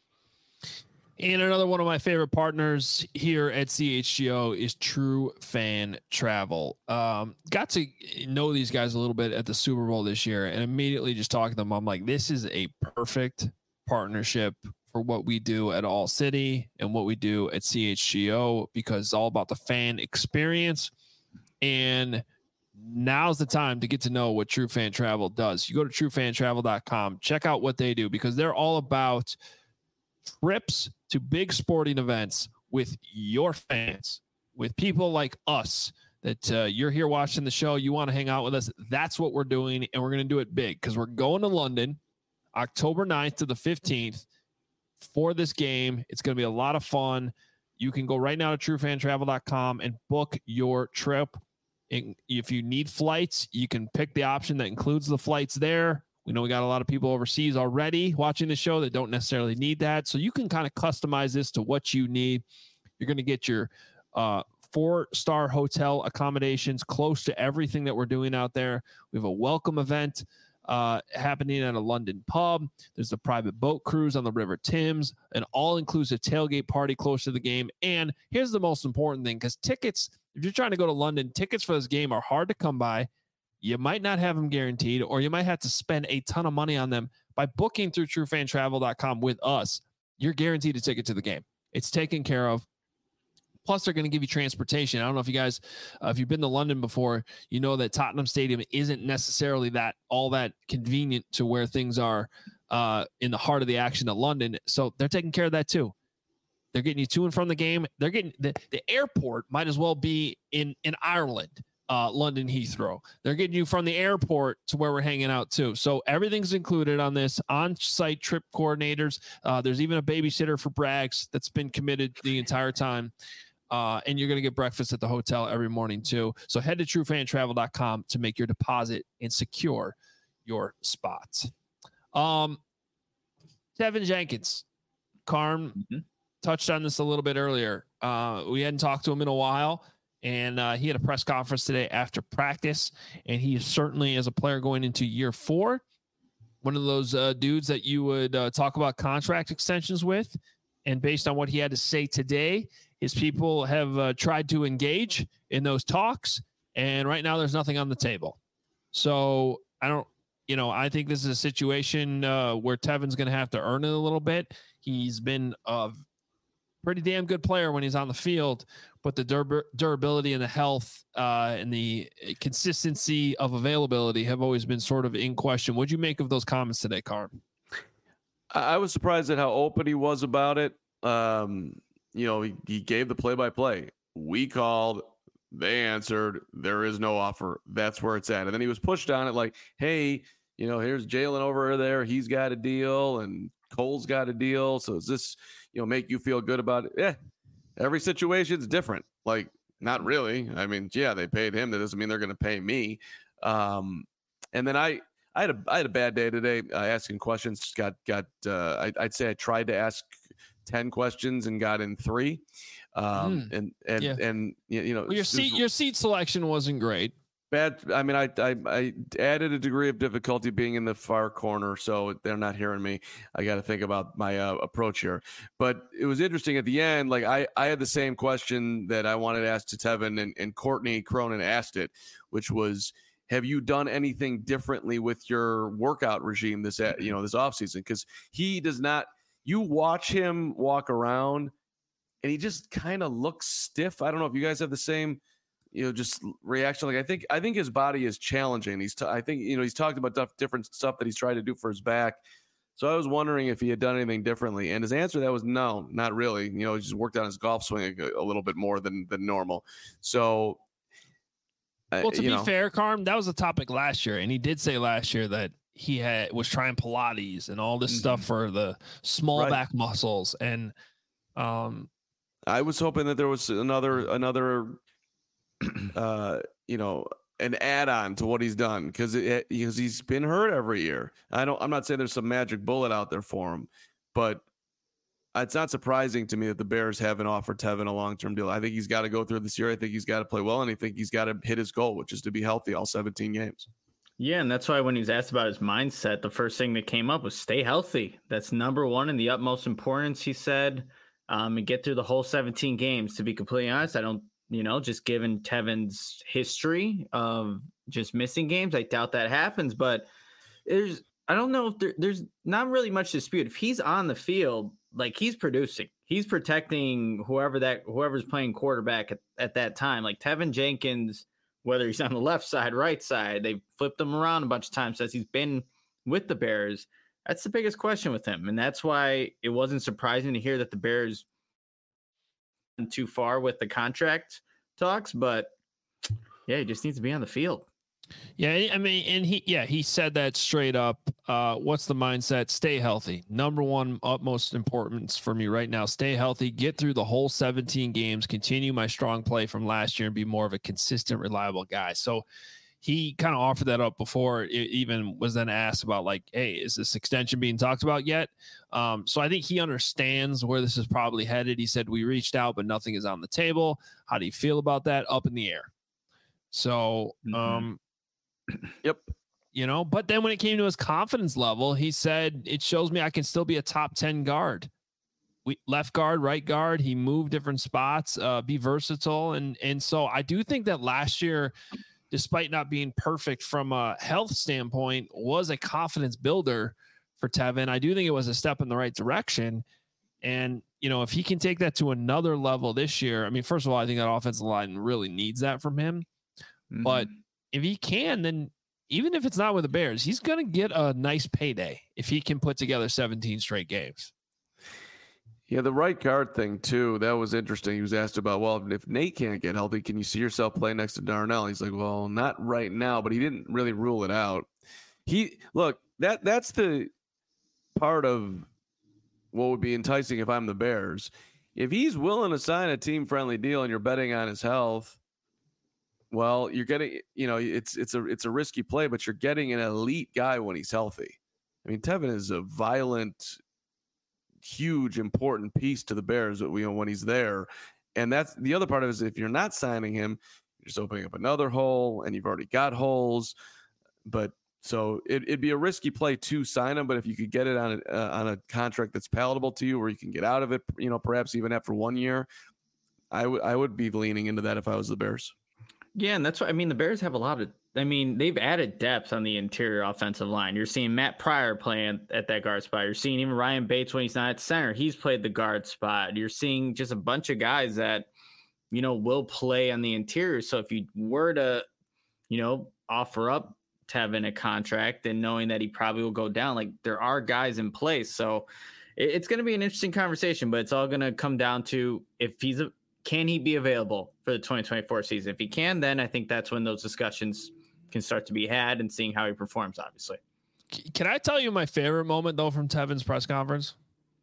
Speaker 1: And another one of my favorite partners here at C H G O is True Fan Travel. Um, got to know these guys a little bit at the Super Bowl this year, and immediately just talking to them, I'm like, this is a perfect partnership for what we do at All City and what we do at C H G O, because it's all about the fan experience. And now's the time to get to know what True Fan Travel does. You go to true fan travel dot com, check out what they do, because they're all about trips to big sporting events with your fans, with people like us that uh, you're here watching the show. You want to hang out with us. That's what we're doing. And we're going to do it big because we're going to London October ninth to the fifteenth for this game. It's going to be a lot of fun. You can go right now to true fan travel dot com and book your trip. And if you need flights, you can pick the option that includes the flights there. We know we got a lot of people overseas already watching the show that don't necessarily need that. So you can kind of customize this to what you need. You're going to get your uh, four-star hotel accommodations close to everything that we're doing out there. We have a welcome event uh, happening at a London pub. There's a private boat cruise on the River Thames, an all-inclusive tailgate party close to the game. And here's the most important thing, because tickets, if you're trying to go to London, tickets for this game are hard to come by. You might not have them guaranteed, or you might have to spend a ton of money on them. By booking through true fan travel dot com with us, you're guaranteed a ticket to the game. It's taken care of. Plus, they're going to give you transportation. I don't know if you guys, uh, if you've been to London before, you know that Tottenham Stadium isn't necessarily that all that convenient to where things are uh, in the heart of the action at London. So they're taking care of that too. They're getting you to and from the game. They're getting the, the airport might as well be in, in Ireland, uh, London Heathrow. They're getting you from the airport to where we're hanging out too. So everything's included on this on-site trip coordinators. Uh, there's even a babysitter for Braggs that's been committed the entire time. Uh, and you're going to get breakfast at the hotel every morning too. So head to true fan travel dot com to make your deposit and secure your spots. Um, Tevin Jenkins, Carm mm-hmm. touched on this a little bit earlier. Uh, we hadn't talked to him in a while, and uh, he had a press conference today after practice, and he is certainly, as a player going into year four, one of those uh, dudes that you would uh, talk about contract extensions with. And based on what he had to say today, his people have uh, tried to engage in those talks, and right now there's nothing on the table. So I don't, you know, I think this is a situation uh, where Tevin's going to have to earn it a little bit. He's been a pretty damn good player when he's on the field, but the dur- durability and the health uh, and the consistency of availability have always been sort of in question. What'd you make of those comments today, Carm?
Speaker 2: I was surprised at how open he was about it. Um, you know, he, he gave the play-by-play. We called, they answered, there is no offer. That's where it's at. And then he was pushed on it like, hey, you know, here's Jalen over there. He's got a deal and Cole's got a deal. So does this, you know, make you feel good about it? Yeah. Every situation's different. Like, not really. I mean, yeah, they paid him. That doesn't mean they're going to pay me. Um, and then I, I had a I had a bad day today uh, asking questions. Got got uh, I, I'd say I tried to ask ten questions and got in three. Um, mm. And and yeah. and you know
Speaker 1: well, your seat your seat selection wasn't great.
Speaker 2: Bad. I mean, I, I I added a degree of difficulty being in the far corner, so they're not hearing me. I got to think about my uh, approach here. But it was interesting at the end. Like I I had the same question that I wanted to ask to Tevin, and, and Courtney Cronin asked it, which was, have you done anything differently with your workout regime this, you know, this offseason? Because he does not, you watch him walk around and he just kind of looks stiff. I don't know if you guys have the same, you know, just reaction. Like, I think, I think his body is challenging. He's, t- I think, you know, he's talked about different stuff that he's tried to do for his back. So I was wondering if he had done anything differently. And his answer to that was no, not really. You know, he just worked on his golf swing a, a little bit more than, than normal. So,
Speaker 1: well, to
Speaker 2: you
Speaker 1: be
Speaker 2: know.
Speaker 1: fair, Carm, that was a topic last year, and he did say last year that he had was trying Pilates and all this mm-hmm. stuff for the small right. back muscles. And um,
Speaker 2: I was hoping that there was another another, uh, you know, an add-on to what he's done because because he's been hurt every year. I don't. I'm not saying there's some magic bullet out there for him, but it's not surprising to me that the Bears haven't offered Tevin a long-term deal. I think he's got to go through this year. I think he's got to play well, and I think he's got to hit his goal, which is to be healthy all seventeen games.
Speaker 3: Yeah, and that's why when he was asked about his mindset, the first thing that came up was stay healthy. That's number one and the utmost importance, he said, um, and get through the whole seventeen games. To be completely honest, I don't, you know, just given Tevin's history of just missing games, I doubt that happens. But there's, I don't know if there, there's not really much dispute. If he's on the field, like he's producing, he's protecting whoever that whoever's playing quarterback at, at that time. Like Tevin Jenkins, whether he's on the left side, right side, they've flipped him around a bunch of times since he's been with the Bears. That's the biggest question with him. And that's why it wasn't surprising to hear that the Bears went too far with the contract talks. But yeah, he just needs to be on the field.
Speaker 1: Yeah, I mean, and he, yeah, he said that straight up. Uh, what's the mindset? Stay healthy. Number one, utmost importance for me right now. Stay healthy, get through the whole seventeen games, continue my strong play from last year, and be more of a consistent, reliable guy. So he kind of offered that up before it even was then asked about, like, hey, is this extension being talked about yet? Um, so I think he understands where this is probably headed. He said, we reached out, but nothing is on the table. How do you feel about that? Up in the air. So,
Speaker 2: mm-hmm.
Speaker 1: um,
Speaker 2: Yep.
Speaker 1: You know, but then when it came to his confidence level, he said, it shows me I can still be a top ten guard. We left guard, right guard. He moved different spots, uh, be versatile. And, and so I do think that last year, despite not being perfect from a health standpoint, was a confidence builder for Tevin. I do think it was a step in the right direction. And, you know, if he can take that to another level this year, I mean, first of all, I think that offensive line really needs that from him. Mm-hmm. But if he can, then even if it's not with the Bears, he's going to get a nice payday if he can put together seventeen straight games.
Speaker 2: Yeah, the right guard thing, too, that was interesting. He was asked about, well, if Nate can't get healthy, can you see yourself playing next to Darnell? He's like, well, not right now, but he didn't really rule it out. He look, that that's the part of what would be enticing if I'm the Bears. If he's willing to sign a team-friendly deal and you're betting on his health, well, you're getting, you know, it's it's a it's a risky play, but you're getting an elite guy when he's healthy. I mean, Tevin is a violent, huge, important piece to the Bears, you know, when he's there. And that's the other part of it is if you're not signing him, you're just opening up another hole, and you've already got holes. But so it, it'd be a risky play to sign him. But if you could get it on a, uh, on a contract that's palatable to you, where you can get out of it, you know, perhaps even after one year, I would I would be leaning into that if I was the Bears.
Speaker 3: Yeah, and that's what I mean. The Bears have a lot of, I mean, they've added depth on the interior offensive line. You're seeing Matt Pryor playing at that guard spot. You're seeing even Ryan Bates when he's not at center. He's played the guard spot. You're seeing just a bunch of guys that, you know, will play on the interior. So if you were to, you know, offer up Tevin a contract and knowing that he probably will go down, like there are guys in place. So it, it's going to be an interesting conversation, but it's all going to come down to if he's a, can he be available for the twenty twenty-four season? If he can, then I think that's when those discussions can start to be had and seeing how he performs, obviously.
Speaker 1: Can I tell you my favorite moment, though, from Tevin's press conference?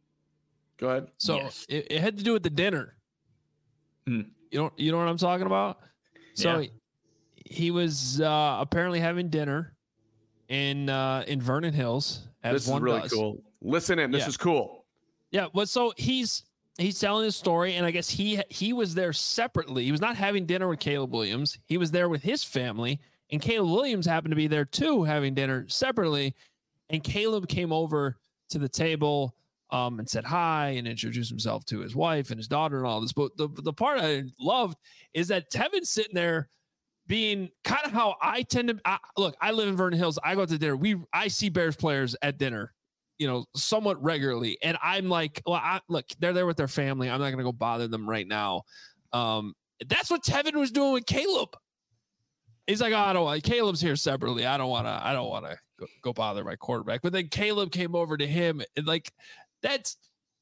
Speaker 2: Go ahead.
Speaker 1: So
Speaker 3: Yes.
Speaker 1: it, it had to do with the dinner.
Speaker 3: Hmm.
Speaker 1: You know, you know what I'm talking about? So
Speaker 3: Yeah.
Speaker 1: he, he was uh, apparently having dinner in uh, in Vernon Hills. As
Speaker 2: This is
Speaker 1: one
Speaker 2: really
Speaker 1: does.
Speaker 2: cool. Listen in. This
Speaker 1: Yeah.
Speaker 2: is cool.
Speaker 1: Yeah, but so he's he's telling his story, and I guess he he was there separately. He was not having dinner with Caleb Williams. He was there with his family, and Caleb Williams happened to be there too, having dinner separately. And Caleb came over to the table um, and said hi and introduced himself to his wife and his daughter and all this. But the the part I loved is that Tevin's sitting there being kind of how I tend to I, look. I live in Vernon Hills. I go to dinner. We I see Bears players at dinner, you know, somewhat regularly. And I'm like, well, I, look, they're there with their family. I'm not going to go bother them right now. Um, that's what Tevin was doing with Caleb. He's like, oh, I don't want, Caleb's here separately. I don't want to, I don't want to go, go bother my quarterback. But then Caleb came over to him and like, that's,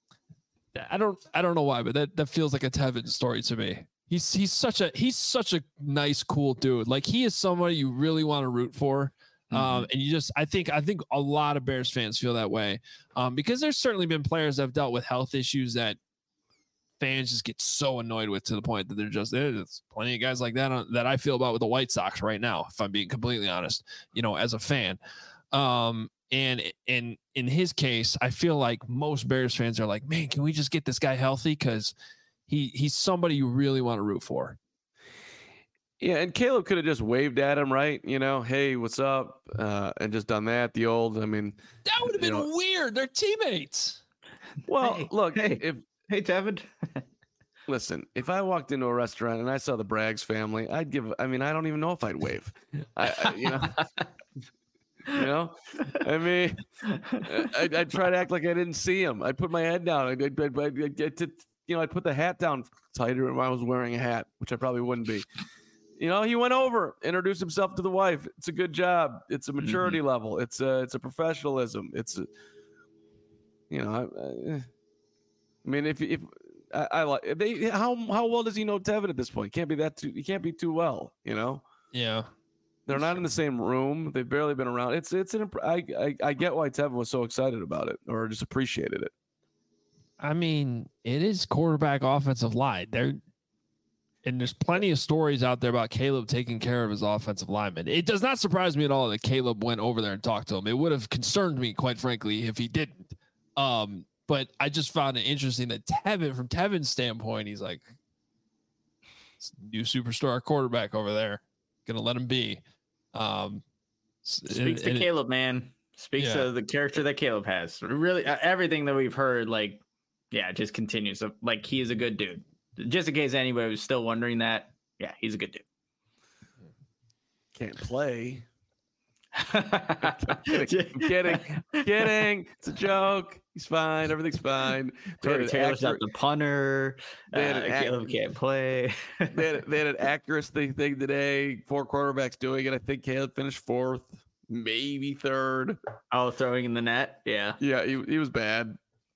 Speaker 1: I don't, I don't know why, but that, that feels like a Tevin story to me. He's, he's such a, he's such a nice, cool dude. Like he is somebody you really want to root for. Um, and you just, I think, I think a lot of Bears fans feel that way um, because there's certainly been players that have dealt with health issues that fans just get so annoyed with to the point that they're just, there's plenty of guys like that on, that I feel about with the White Sox right now, if I'm being completely honest, you know, as a fan. Um, and in, in his case, I feel like most Bears fans are like, man, can we just get this guy healthy? Cause he, he's somebody you really want to root for.
Speaker 2: Yeah, and Caleb could have just waved at him, right? You know, hey, what's up? Uh, and just done that. The old, I mean,
Speaker 1: that would have been
Speaker 2: you know,
Speaker 1: weird. They're teammates.
Speaker 2: well,
Speaker 3: Hey,
Speaker 2: look,
Speaker 3: hey.
Speaker 2: if
Speaker 3: Hey, Tevin.
Speaker 2: listen, if I walked into a restaurant and I saw the Braggs family, I'd give. I mean, I don't even know if I'd wave. I, I you know, you know, I mean, I'd, I'd try to act like I didn't see him. I'd put my head down. I'd, I'd, I'd, I'd, I'd get to, you know, I'd put the hat down tighter if I was wearing a hat, which I probably wouldn't be. You know, he went over, introduced himself to the wife. It's a good job. It's a maturity mm-hmm. level. It's a, it's a professionalism. It's, a, you know, I, I mean, if if I, I like they, how how well does he know Tevin at this point? Can't be that too. He can't be too well. You know.
Speaker 1: Yeah.
Speaker 2: They're not in the same room. They've barely been around. It's it's an. I I, I get why Tevin was so excited about it, or just appreciated it.
Speaker 1: I mean, it is quarterback offensive line. They're And there's plenty of stories out there about Caleb taking care of his offensive lineman. It does not surprise me at all that Caleb went over there and talked to him. It would have concerned me, quite frankly, if he didn't. Um, but I just found it interesting that Tevin, from Tevin's standpoint, he's like, new superstar quarterback over there. Gonna let him be. Um,
Speaker 3: Speaks
Speaker 1: and,
Speaker 3: to
Speaker 1: and
Speaker 3: Caleb, man. Speaks
Speaker 1: yeah.
Speaker 3: to the character that Caleb has. Really, uh, everything that we've heard, like, yeah, just continues. Like, he is a good dude. Just in case anybody was still wondering that, yeah, he's a good dude.
Speaker 2: Can't play. I'm kidding. I'm kidding. I'm kidding. It's a joke. He's fine. Everything's fine.
Speaker 3: Tory Taylor's not the punter.
Speaker 2: They had
Speaker 3: Uh,
Speaker 2: an
Speaker 3: Caleb
Speaker 2: ac-
Speaker 3: can't play.
Speaker 2: they, had, they had an accuracy thing today. Four quarterbacks doing it. I think Caleb finished fourth, maybe third.
Speaker 3: Oh, throwing in the net. Yeah.
Speaker 2: Yeah, he, he was bad.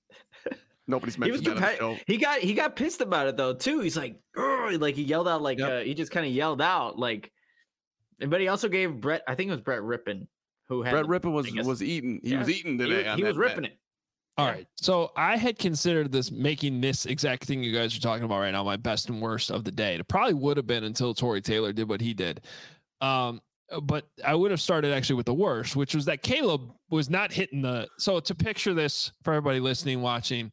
Speaker 2: Nobody's
Speaker 3: He was
Speaker 2: mentioned that on the
Speaker 3: compet-
Speaker 2: show.
Speaker 3: He got he got pissed about it though too. He's like, "Ugh," like he yelled out like
Speaker 2: Yep.
Speaker 3: uh, he just kind of yelled out like. But he also gave Brett. I think it was Brett Rippon who had
Speaker 2: Brett
Speaker 3: the-
Speaker 2: Rippon was
Speaker 3: I guess-
Speaker 2: was eating. He
Speaker 3: Yeah.
Speaker 2: was eating
Speaker 3: He,
Speaker 2: today.
Speaker 3: was-
Speaker 2: on
Speaker 3: he
Speaker 2: that
Speaker 3: was ripping
Speaker 2: net.
Speaker 3: it.
Speaker 1: All
Speaker 3: Yeah.
Speaker 1: right. So I had considered this making this exact thing you guys are talking about right now my best and worst of the day. It probably would have been until Tory Taylor did what he did. Um, but I would have started actually with the worst, which was that Caleb was not hitting the. So to picture this for everybody listening, watching,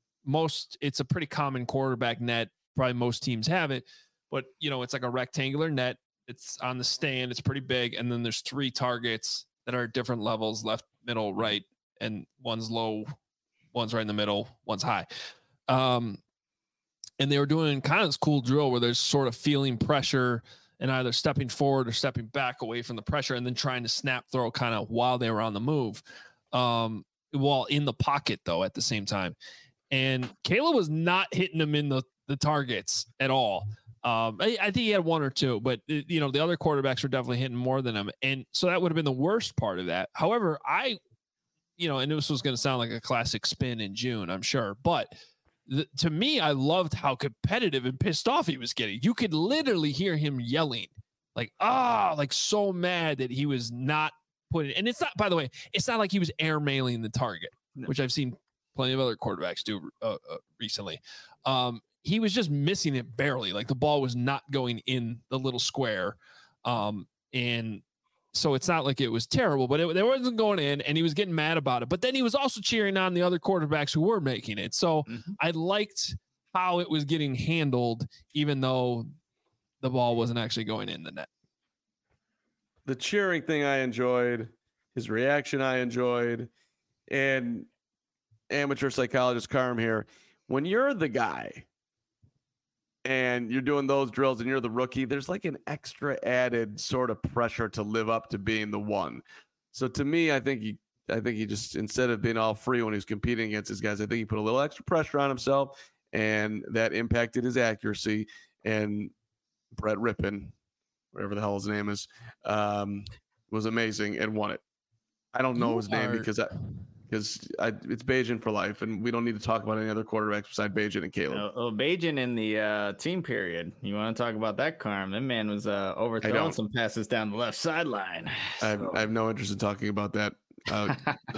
Speaker 1: most it's a pretty common quarterback net. Probably most teams have it, but you know it's like a rectangular net. It's on the stand. It's pretty big, and then there's three targets that are at different levels: left, middle, right, and one's low, one's right in the middle, one's high. Um, and they were doing kind of this cool drill where there's sort of feeling pressure and either stepping forward or stepping back away from the pressure, and then trying to snap throw kind of while they were on the move, um, while in the pocket though at the same time. And Caleb was not hitting them in the the targets at all. Um, I, I think he had one or two, but uh, you know the other quarterbacks were definitely hitting more than him, and so that would have been the worst part of that. However, I, you know, and this was going to sound like a classic spin in June, I'm sure, but th- to me, I loved how competitive and pissed off he was getting. You could literally hear him yelling, like ah, like so mad that he was not putting. And it's not, by the way, it's not like he was airmailing the target,
Speaker 3: No.
Speaker 1: which I've seen plenty of other quarterbacks do uh, uh, recently. Um, he was just missing it barely. Like the ball was not going in the little square. Um, and so it's not like it was terrible, but it, it wasn't going in, and he was getting mad about it. But then he was also cheering on the other quarterbacks who were making it. So
Speaker 3: Mhm.
Speaker 1: I liked how it was getting handled, even though the ball wasn't actually going in the net.
Speaker 2: The cheering thing I enjoyed, his reaction I enjoyed, and amateur psychologist Carm here. When you're the guy and you're doing those drills and you're the rookie, there's like an extra added sort of pressure to live up to being the one. So to me, I think he, I think he just, instead of being all free when he was competing against his guys, I think he put a little extra pressure on himself, and that impacted his accuracy. And Brett Rippon, whatever the hell his name is, um, was amazing and won it. I don't know
Speaker 1: You
Speaker 2: his name
Speaker 1: are-
Speaker 2: because I, because I, it's Bajan for life, and we don't need to talk about any other quarterbacks besides Bajan and Caleb.
Speaker 3: Oh, oh, Bajan in the uh, team period. You want to talk about that, Carm? That man was uh, overthrowing
Speaker 2: don't.
Speaker 3: some passes down the left sideline.
Speaker 2: I, have,
Speaker 3: So-
Speaker 2: I have no interest in talking about that. Uh,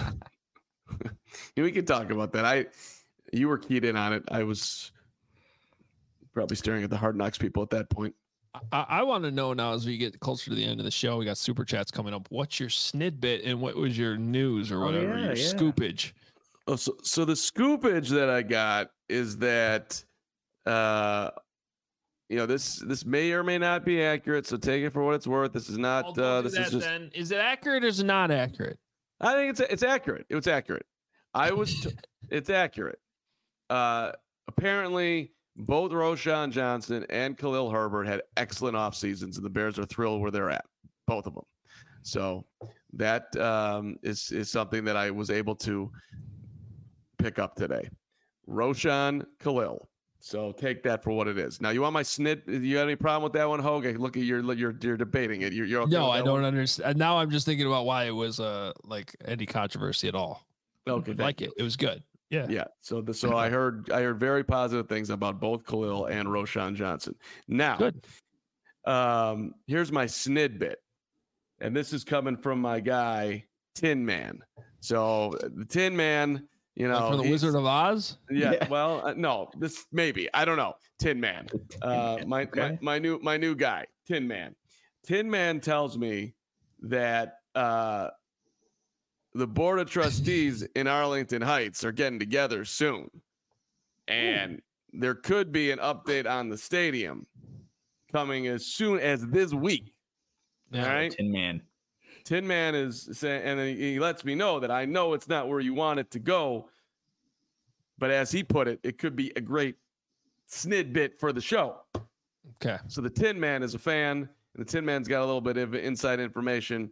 Speaker 2: we can talk about that. I, you were keyed in on it. I was probably staring at the Hard Knocks people at that point.
Speaker 1: I, I want to know now as we get closer to the end of the show, we got super chats coming up. What's your snidbit and what was your news or
Speaker 3: Oh,
Speaker 1: whatever,
Speaker 3: yeah,
Speaker 1: your
Speaker 3: yeah.
Speaker 1: scoopage?
Speaker 2: Oh, so so the scoopage that I got is that, uh, you know, this this may or may not be accurate. So take it for what it's worth. This is not.
Speaker 1: Well, don't
Speaker 2: uh,
Speaker 1: do
Speaker 2: this
Speaker 1: that
Speaker 2: is just.
Speaker 1: then. Is it accurate or is it not accurate?
Speaker 2: I think it's it's accurate. It's accurate. I was. T- it's accurate. Uh, apparently, both Roshan Johnson and Khalil Herbert had excellent off seasons, and the Bears are thrilled where they're at. Both of them. So that um, is is something that I was able to pick up today. Roshan, Khalil. So take that for what it is. Now, you want my snit? You got any problem with that one, Hogue? I look at you're you're you're debating it. You're, you're okay
Speaker 1: No,
Speaker 2: with
Speaker 1: I
Speaker 2: that
Speaker 1: don't
Speaker 2: one?
Speaker 1: understand. Now I'm just thinking about why it was uh like any controversy at all.
Speaker 2: Okay,
Speaker 1: I
Speaker 2: thank
Speaker 1: like it. It was good. Yeah.
Speaker 2: Yeah. So the, so I heard I heard very positive things about both Khalil and Roshan Johnson. Now,
Speaker 1: Good.
Speaker 2: um, here's my snid bit, and this is coming from my guy Tin Man. So the Tin Man, you know,
Speaker 1: Like for the
Speaker 2: he's-
Speaker 1: Wizard of Oz.
Speaker 2: Yeah,
Speaker 3: Yeah.
Speaker 2: well, uh, no, this maybe I don't know. Tin Man, uh, my, my
Speaker 3: Okay.
Speaker 2: my new my new guy, Tin Man. Tin Man tells me that uh, the board of trustees in Arlington Heights are getting together soon, and there could be an update on the stadium coming as soon as this week.
Speaker 1: Yeah.
Speaker 2: All right.
Speaker 3: Tin Man.
Speaker 2: Tin Man is saying, and then he lets me know that I know it's not where you want it to go. But as he put it, it could be a great snid bit for the show.
Speaker 1: Okay.
Speaker 2: So the Tin Man is a fan, and the Tin Man's got a little bit of inside information.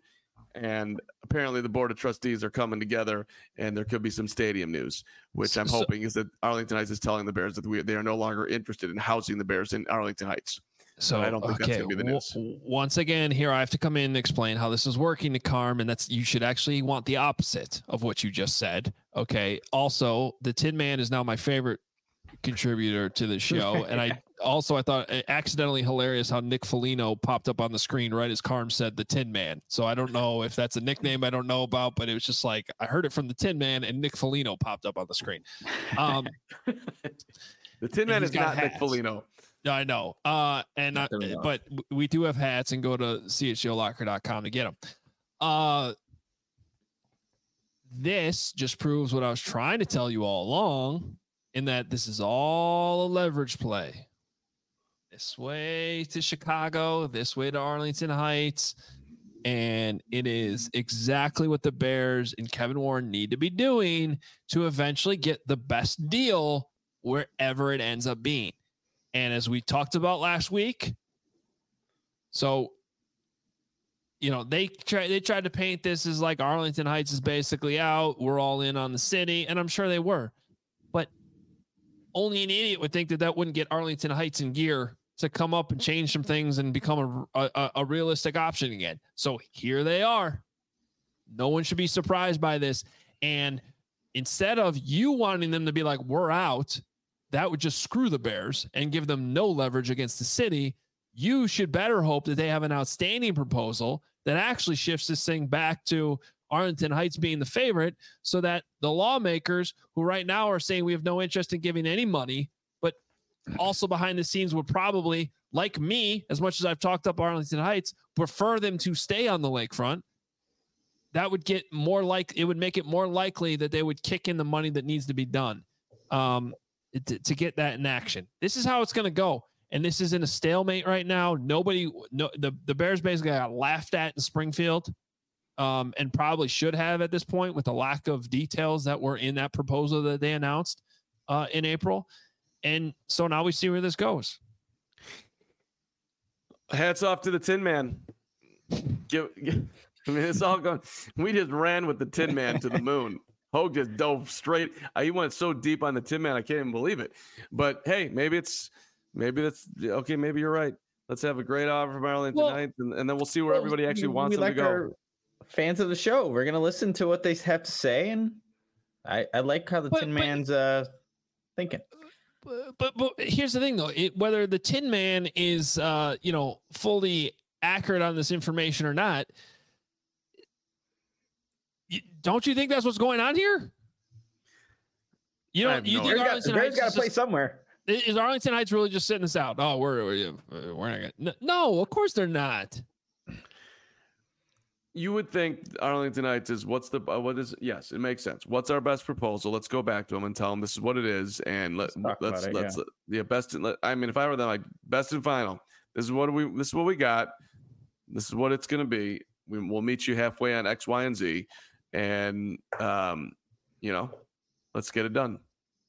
Speaker 2: And apparently the board of trustees are coming together, and there could be some stadium news, which I'm
Speaker 1: So-
Speaker 2: hoping is that Arlington Heights is telling the Bears that we, they are no longer interested in housing the Bears in Arlington Heights.
Speaker 1: So
Speaker 2: I don't think that's
Speaker 1: okay,
Speaker 2: gonna be the
Speaker 1: w-
Speaker 2: news.
Speaker 1: w- once again, here I have to come in and explain how this is working to Carm, and that's you should actually want the opposite of what you just said. Okay. Also, the Tin Man is now my favorite contributor to the show, and I also I thought it accidentally hilarious how Nick Foligno popped up on the screen right as Carm said the Tin Man. So I don't know if that's a nickname I don't know about, but it was just like I heard it from the Tin Man, and Nick Foligno popped up on the screen. Um,
Speaker 2: The Tin Man
Speaker 1: he's
Speaker 2: is
Speaker 1: got
Speaker 2: not Nick
Speaker 1: hats.
Speaker 2: Foligno.
Speaker 1: I know. Uh, and I,
Speaker 3: There we go.
Speaker 1: but we do have hats, and go to c h o locker dot com to get them. Uh, this just proves what I was trying to tell you all along, in that this is all a leverage play. This way to Chicago, this way to Arlington Heights. And it is exactly what the Bears and Kevin Warren need to be doing to eventually get the best deal wherever it ends up being. And as we talked about last week, so, you know, they try, they tried to paint this as like Arlington Heights is basically out. We're all in on the city. And I'm sure they were. But only an idiot would think that that wouldn't get Arlington Heights in gear to come up and change some things and become a, a, a realistic option again. So here they are. No one should be surprised by this. And instead of you wanting them to be like, we're out, that would just screw the Bears and give them no leverage against the city. You should better hope that they have an outstanding proposal that actually shifts this thing back to Arlington Heights being the favorite, so that the lawmakers who right now are saying we have no interest in giving any money, but also behind the scenes would probably, like me, as much as I've talked up Arlington Heights, prefer them to stay on the lakefront. That would get more like, it would make it more likely that they would kick in the money that needs to be done. Um, To, to get that in action. This is how it's going to go. And this is in a stalemate right now. Nobody, no, the, the Bears basically got laughed at in Springfield, um, and probably should have at this point with the lack of details that were in that proposal that they announced uh, in April. And so now we see where this goes.
Speaker 2: Hats off to the Tin Man. Give, give, I mean, it's all going. We just ran with the Tin Man to the moon. Hogue just dove straight. Uh, he went so deep on the Tin Man, I can't even believe it. But hey, maybe it's, maybe that's okay. Maybe you're right. Let's have a great offer from Arlington
Speaker 3: Well,
Speaker 2: Heights, and, and then we'll see where
Speaker 3: Well,
Speaker 2: everybody actually
Speaker 3: we-
Speaker 2: wants
Speaker 3: we
Speaker 2: them
Speaker 3: like
Speaker 2: to go.
Speaker 3: our fans of the show. We're gonna listen to what they have to say, and I, I like how the
Speaker 1: But-
Speaker 3: Tin
Speaker 1: but-
Speaker 3: Man's uh thinking.
Speaker 1: But, but, but here's the thing though, it, whether the Tin Man is, uh, you know, fully accurate on this information or not, you, don't you think that's what's going on here? You
Speaker 2: I
Speaker 1: don't,
Speaker 2: have
Speaker 1: you
Speaker 2: no
Speaker 1: think
Speaker 2: idea.
Speaker 1: Arlington
Speaker 3: Bears
Speaker 1: Heights
Speaker 3: got
Speaker 1: is
Speaker 3: to play
Speaker 1: just-
Speaker 3: somewhere.
Speaker 1: Is Arlington Heights really just sitting this out? Oh, we're we're, we're not gonna. No, of course they're not.
Speaker 2: You would think Arlington Heights is what's the uh, what is yes, it makes sense. What's our best proposal? Let's go back to them and tell them this is what it is, and let,
Speaker 3: Let's talk
Speaker 2: let's
Speaker 3: about it,
Speaker 2: let's yeah best. In, let, I mean, if I were them, like best and final. This is what we this is what we got. This is what it's going to be. We, we'll meet you halfway on X, Y, and Z, and um, you know, let's get it done.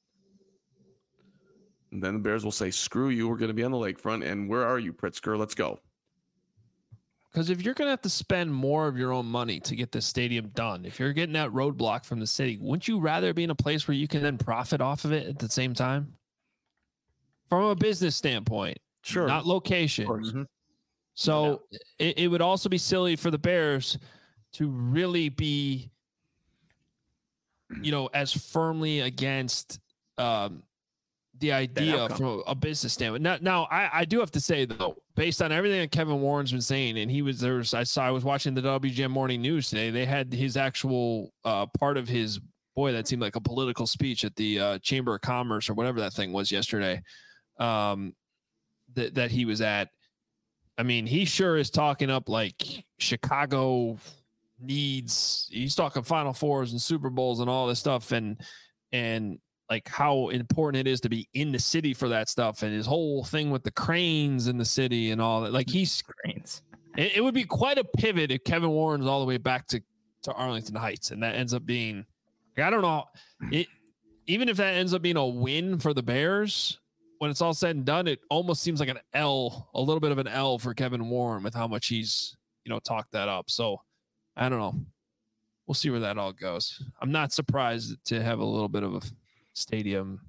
Speaker 2: And then the Bears will say, "Screw you! We're going to be on the lakefront, and where are you, Pritzker? Let's go."
Speaker 1: Because if you're going to have to spend more of your own money to get this stadium done, if you're getting that roadblock from the city, wouldn't you rather be in a place where you can then profit off of it at the same time? From a business standpoint,
Speaker 2: Sure,
Speaker 1: not location.
Speaker 3: Mhm.
Speaker 1: So it, it would also be silly for the Bears to really be, you know, as firmly against um, the idea
Speaker 3: outcome.
Speaker 1: from a business standpoint. Now, now I, I do have to say though, based on everything that Kevin Warren's been saying, and he was there, was, I saw, I was watching the W G M Morning News today. They had his actual uh, part of his, boy, that seemed like a political speech at the uh, Chamber of Commerce or whatever that thing was yesterday, um, that that he was at. I mean, he sure is talking up like Chicago needs. He's talking Final Fours and Super Bowls and all this stuff, and and like how important it is to be in the city for that stuff, and his whole thing with the cranes in the city and all that. Like he's,
Speaker 3: Brains.
Speaker 1: it, it would be quite a pivot if Kevin Warren's all the way back to to Arlington Heights, and that ends up being, I don't know, it. Even if that ends up being a win for the Bears, when it's all said and done, it almost seems like an L, a little bit of an L for Kevin Warren with how much he's, you know, talked that up. So I don't know. We'll see where that all goes. I'm not surprised to have a little bit of a stadium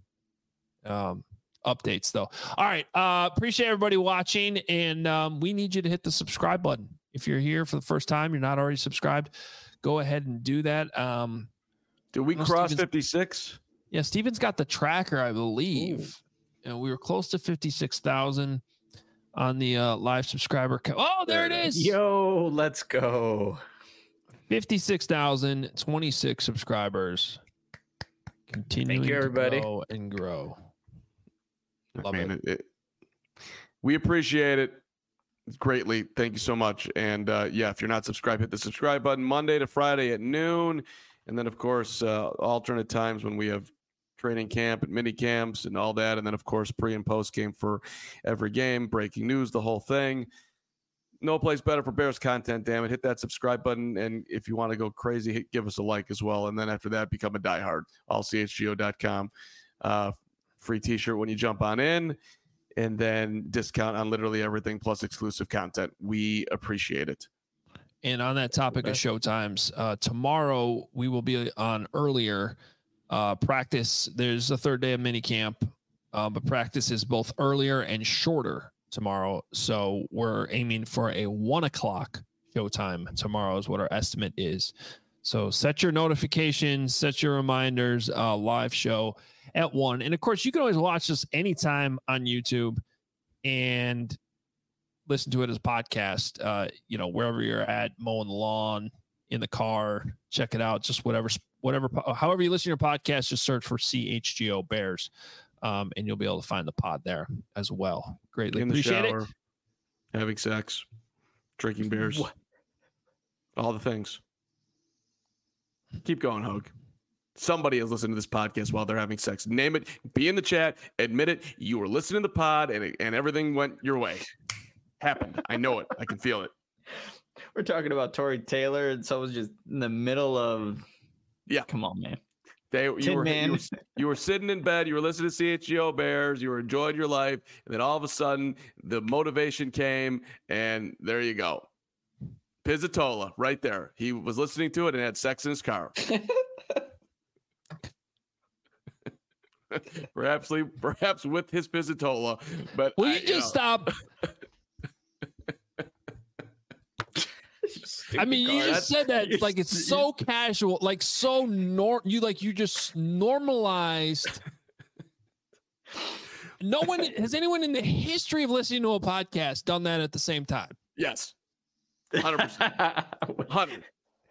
Speaker 1: um, updates, though. All right. Uh, appreciate everybody watching, and um, we need you to hit the subscribe button. If you're here for the first time, you're not already subscribed, go ahead and do that. Um,
Speaker 2: Did we cross
Speaker 1: Steven's,
Speaker 2: fifty-six?
Speaker 1: Yeah, Steven's got the tracker, I believe. And we were close to fifty-six thousand on the uh, live subscriber count. Oh, there, there it is.
Speaker 3: Yo, let's go.
Speaker 1: fifty-six thousand twenty-six subscribers. Continuing
Speaker 3: Thank you, everybody.
Speaker 1: to grow and grow. Love
Speaker 2: I mean,
Speaker 1: it.
Speaker 2: It, it. We appreciate it greatly. Thank you so much. And uh, yeah, if you're not subscribed, hit the subscribe button Monday to Friday at noon. And then, of course, uh, alternate times when we have training camp and mini camps and all that. And then, of course, pre and post game for every game, breaking news, the whole thing. No place better for Bears content, damn it. Hit that subscribe button. And if you want to go crazy, hit, give us a like as well. And then after that, become a diehard. all c h g o dot com. Uh, free t-shirt when you jump on in. And then discount on literally everything plus exclusive content. We appreciate it.
Speaker 1: And on that topic of show times, uh, tomorrow we will be on earlier uh, practice. There's a third day of mini camp, uh, but practice is both earlier and shorter tomorrow. So we're aiming for a one o'clock showtime tomorrow is what our estimate is. So set your notifications, set your reminders, uh, live show at one. And of course, you can always watch this anytime on YouTube and listen to it as a podcast, uh, you know, wherever you're at, mowing the lawn, in the car, check it out. Just whatever, whatever, however you listen to your podcast, just search for C H G O Bears, um, and you'll be able to find the pod there as well. Greatly
Speaker 2: in the
Speaker 1: appreciate
Speaker 2: shower,
Speaker 1: it.
Speaker 2: Having sex, drinking beers, what? All the things. Keep going, Hogue. Somebody is listening to this podcast while they're having sex. Name it. Be in the chat. Admit it. You were listening to the pod, and it, and everything went your way. Happened. I know it. I can feel it.
Speaker 3: We're talking about Tory Taylor, and someone's just in the middle of.
Speaker 2: Yeah,
Speaker 3: come on, man.
Speaker 2: They you
Speaker 3: Tin
Speaker 2: were,
Speaker 3: man.
Speaker 2: you were you were sitting in bed. You were listening to C H G O Bears. You were enjoying your life, and then all of a sudden, the motivation came, and there you go. Pizzatola, right there. He was listening to it and had sex in his car. perhaps, perhaps with his Pizzatola, but
Speaker 1: will
Speaker 2: I,
Speaker 1: you just
Speaker 2: you know.
Speaker 1: stop? I mean, you just said that like it's so casual, like so nor you like you just normalized. No one has anyone in the history of listening to a podcast done that at the same time.
Speaker 2: Yes, hundred percent, hundred.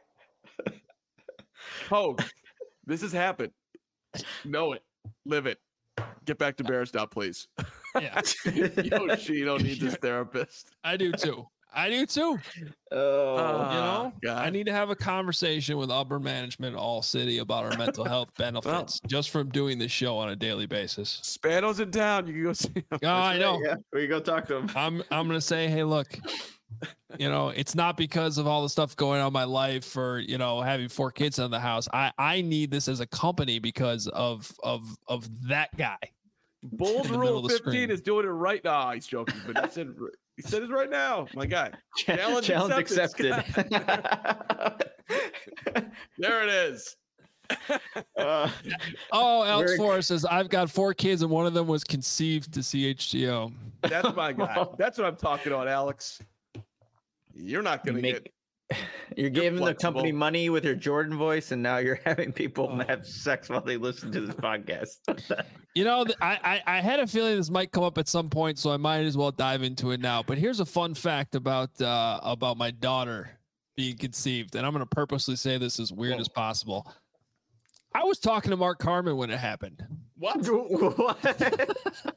Speaker 2: Hogue, this has happened. Know it, live it. Get back to Bears now, please.
Speaker 1: Yeah,
Speaker 2: Yoshino needs his therapist.
Speaker 1: I do too. I do too.
Speaker 3: Oh,
Speaker 1: uh, you know,
Speaker 2: God.
Speaker 1: I need to have a conversation with upper management, all city, about our mental health benefits well, just from doing this show on a daily basis.
Speaker 2: Spano's in town. You can go see him.
Speaker 1: Oh, I know.
Speaker 3: Yeah, we go talk to him.
Speaker 1: I'm I'm gonna say, hey, look, you know, it's not because of all the stuff going on in my life or you know having four kids in the house. I I need this as a company because of of of that guy.
Speaker 2: Bold Rule fifteen is doing it right now. Oh, he's joking, but he said he said it right now. My guy, challenge,
Speaker 3: challenge
Speaker 2: accepted.
Speaker 3: accepted.
Speaker 2: There it is.
Speaker 1: uh, oh, Alex Forrest says I've got four kids and one of them was conceived to C H G O.
Speaker 2: That's my guy. That's what I'm talking about, Alex. You're not going to
Speaker 3: make,
Speaker 2: get.
Speaker 3: You're, you're giving flexible. the company money with your Jordan voice, and now you're having people oh. have sex while they listen to this podcast.
Speaker 1: You know, I, I I had a feeling this might come up at some point, so I might as well dive into it now. But here's a fun fact about uh, about my daughter being conceived, and I'm going to purposely say this as weird Whoa. as possible. I was talking to Mark Carman when it happened.
Speaker 2: What?
Speaker 3: What?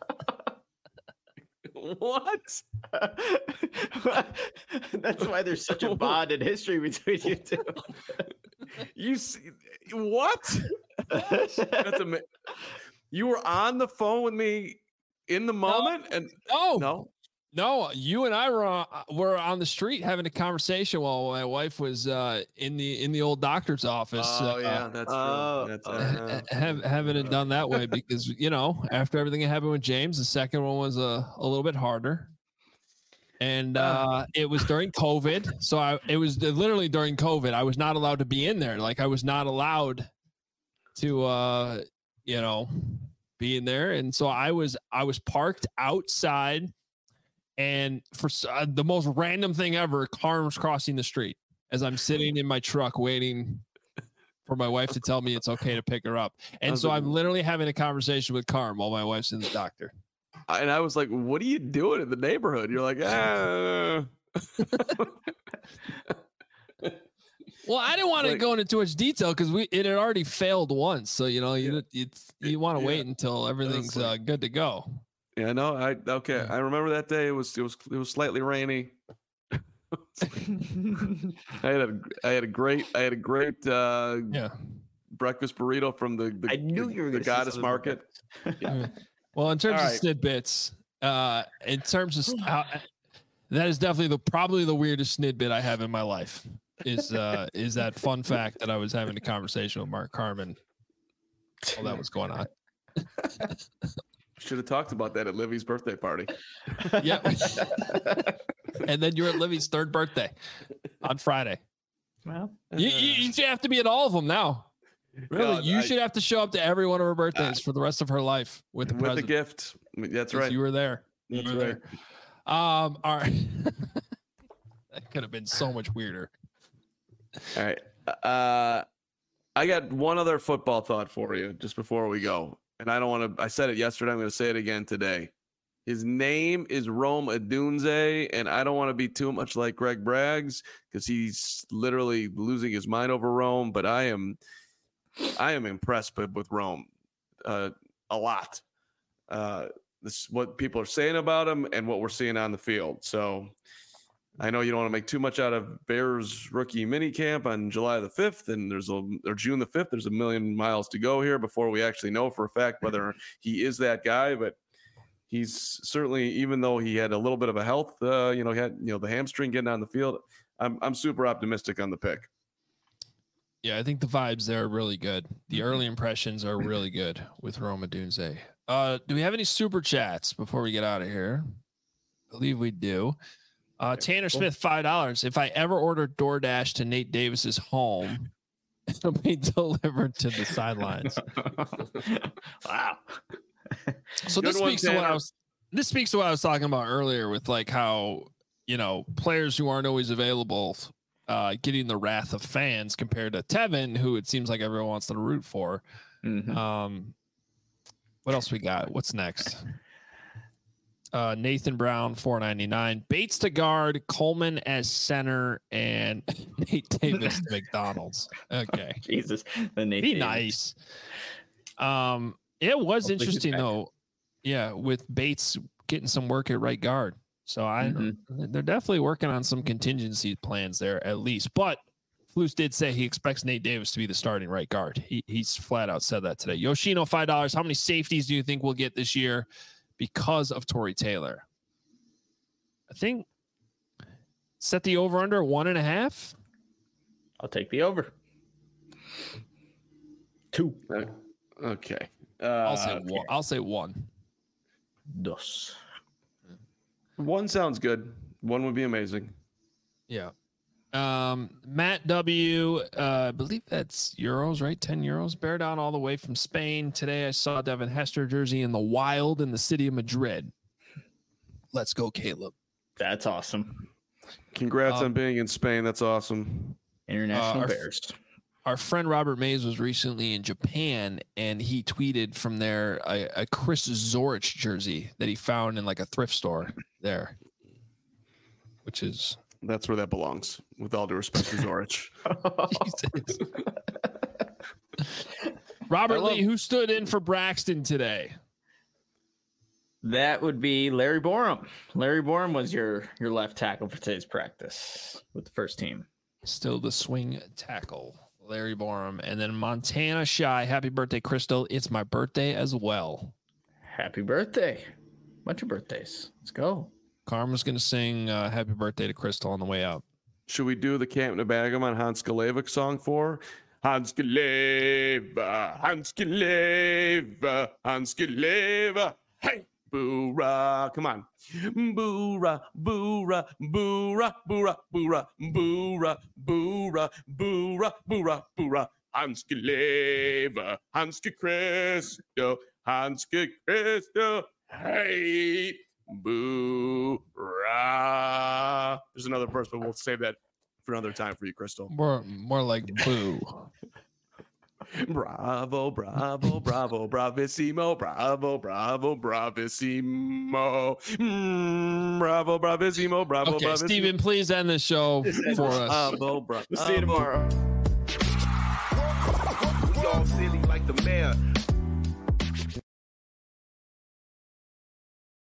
Speaker 2: What?
Speaker 3: That's why there's such a bond in history between you two.
Speaker 2: You see what? That's amazing. You were on the phone with me in the moment,
Speaker 1: no,
Speaker 2: and
Speaker 1: no,
Speaker 2: no,
Speaker 1: no. You and I were on, were on the street having a conversation while my wife was uh, in the in the old doctor's office.
Speaker 2: Oh
Speaker 1: uh,
Speaker 2: yeah, that's true. Uh, that's, uh,
Speaker 1: have, having it done that way because you know after everything that happened with James, the second one was a, a little bit harder. And uh, it was during COVID. So I, it was literally during COVID. I was not allowed to be in there. Like I was not allowed to, uh, you know, be in there. And so I was, I was parked outside, and for uh, the most random thing ever, car was crossing the street as I'm sitting in my truck waiting for my wife to tell me it's okay to pick her up. And so I'm literally having a conversation with Carm while my wife's in the doctor.
Speaker 2: And I was like, what are you doing in the neighborhood? You're like, ah.
Speaker 1: Well, I didn't want to
Speaker 2: Like-
Speaker 1: go into too much detail because we it had already failed once. So, you know, you it's, you want to
Speaker 2: Yeah.
Speaker 1: wait until everything's
Speaker 2: like-
Speaker 1: uh, good to go.
Speaker 2: Yeah, no, I okay.
Speaker 1: Yeah.
Speaker 2: I remember that day. It was it was it was slightly rainy. I had a I had a great I had a great uh,
Speaker 1: Yeah.
Speaker 2: breakfast burrito from the the,
Speaker 3: I knew
Speaker 2: the,
Speaker 3: you were
Speaker 2: the
Speaker 3: going to
Speaker 2: Goddess Market.
Speaker 1: Well, in terms
Speaker 2: All
Speaker 1: of
Speaker 2: right.
Speaker 1: snidbits, uh, in terms of how, that is definitely the probably the weirdest snidbit I have in my life. Is uh is that fun fact that I was having a conversation with Mark Carmen while that was going on.
Speaker 2: Should have talked about that at Livy's birthday party.
Speaker 1: Yeah. And then you're at Livy's third birthday on Friday.
Speaker 3: Well,
Speaker 1: You, you, you should have to be at all of them now. Really,
Speaker 2: God,
Speaker 1: you
Speaker 2: I-
Speaker 1: should have to show up to every one of her birthdays for the rest of her life with the
Speaker 2: with the
Speaker 1: present.
Speaker 2: gift. That's
Speaker 1: 'cause
Speaker 2: right.
Speaker 1: You were there.
Speaker 2: That's
Speaker 1: You were
Speaker 2: right.
Speaker 1: there. Um, all right. That could have been so much weirder.
Speaker 2: All right. Uh, I got one other football thought for you just before we go. And I don't want to, I said it yesterday. I'm going to say it again today. His name is Rome Odunze, and I don't want to be too much like Greg Braggs because he's literally losing his mind over Rome. But I am, I am impressed with, with Rome uh, a lot. Uh, this is what people are saying about him and what we're seeing on the field. So I know you don't want to make too much out of Bears rookie mini camp on July the fifth, and there's a or June the fifth. There's a million miles to go here before we actually know for a fact whether he is that guy. But he's certainly, even though he had a little bit of a health, uh, you know, he had you know the hamstring getting on the field. I'm I'm super optimistic on the pick.
Speaker 1: Yeah, I think the vibes there are really good. The
Speaker 2: Mm-hmm.
Speaker 1: early impressions are really good with Roma Dunze. Uh, do we have any super chats before we get out of here? I believe we do. Uh, Tanner Smith, five dollars. If I ever order DoorDash to Nate Davis's home, it'll be delivered to the sidelines.
Speaker 3: wow.
Speaker 1: So
Speaker 2: Good
Speaker 1: this
Speaker 2: one,
Speaker 1: speaks to what I
Speaker 2: Tanner.
Speaker 1: was. This speaks to what I was talking about earlier with like how you know players who aren't always available, uh, getting the wrath of fans compared to Tevin, who it seems like everyone wants to root for.
Speaker 3: Mhm.
Speaker 1: Um, what else we got? What's next? Uh, Nathan Brown, four ninety-nine. Bates to guard, Coleman as center, and Nate Davis to McDonald's. Okay,
Speaker 3: Jesus. The Nate
Speaker 1: be
Speaker 3: Davis.
Speaker 1: nice. Um, it was
Speaker 3: Hopefully he's
Speaker 1: interesting
Speaker 3: back.
Speaker 1: though. Yeah, with Bates getting some work at right guard. So I,
Speaker 3: Mhm.
Speaker 1: they're definitely working on some contingency plans there at least. But Flus did say he expects Nate Davis to be the starting right guard. He he's flat out said that today. Yoshino, five dollars. How many safeties do you think we'll get this year because of Torrey Taylor? I think set the over under one and a half.
Speaker 3: I'll take the over. Two.
Speaker 2: Okay. Uh,
Speaker 1: I'll say one. I'll say one.
Speaker 3: Dos.
Speaker 2: one sounds good. One would be amazing.
Speaker 1: Yeah. Um, Matt W, uh, I believe that's euros, right? ten euros. Bear down all the way from Spain. Today I saw Devin Hester jersey in the wild in the city of Madrid. Let's go, Caleb.
Speaker 3: That's awesome.
Speaker 2: Congrats
Speaker 1: Um,
Speaker 2: on being in Spain. That's awesome.
Speaker 3: International
Speaker 1: Uh, our-
Speaker 3: Bears.
Speaker 1: Our friend Robert Mays was recently in Japan, and he tweeted from there a, a Chris Zorich jersey that he found in like a thrift store there, which is
Speaker 2: That's where that belongs. With all due respect to Zorich.
Speaker 1: Jesus. Robert
Speaker 2: I love-
Speaker 1: Lee, who stood in for Braxton today?
Speaker 3: That would be Larry Borum. Larry Borum was your your left tackle for today's practice with the first team.
Speaker 1: Still the swing tackle, Larry Borum. And then Montana Shy, happy birthday, Crystal. It's my birthday as well.
Speaker 3: Happy birthday. Bunch of birthdays. Let's go.
Speaker 1: Karma's going to sing uh, happy birthday to Crystal on the way out.
Speaker 2: Should we do the Camp Nebagam on Hans Galevic song for? Hans Galeva, Hans Galeva, Hans Galeva. Hey, Boo-ra. Come on. Boo-ra, boo-ra, boo-ra, boo-ra, boo-ra, boo-ra, boo-ra, boo-ra, boo-ra, boo-ra. Hanske lever, Hanske Christo, Hanske Christo, hey, boo-ra. There's another verse, but we'll save that for another time for you, Crystal.
Speaker 1: More, more like boo.
Speaker 2: Bravo, bravo, bravo, bravissimo, bravo, bravo, bravissimo, mm, bravo, bravissimo, bravo,
Speaker 1: Okay,
Speaker 2: bravissimo.
Speaker 1: Steven, please end the show for us.
Speaker 2: Bravo, bravo.
Speaker 3: We'll see you tomorrow.
Speaker 5: We all silly like the mayor.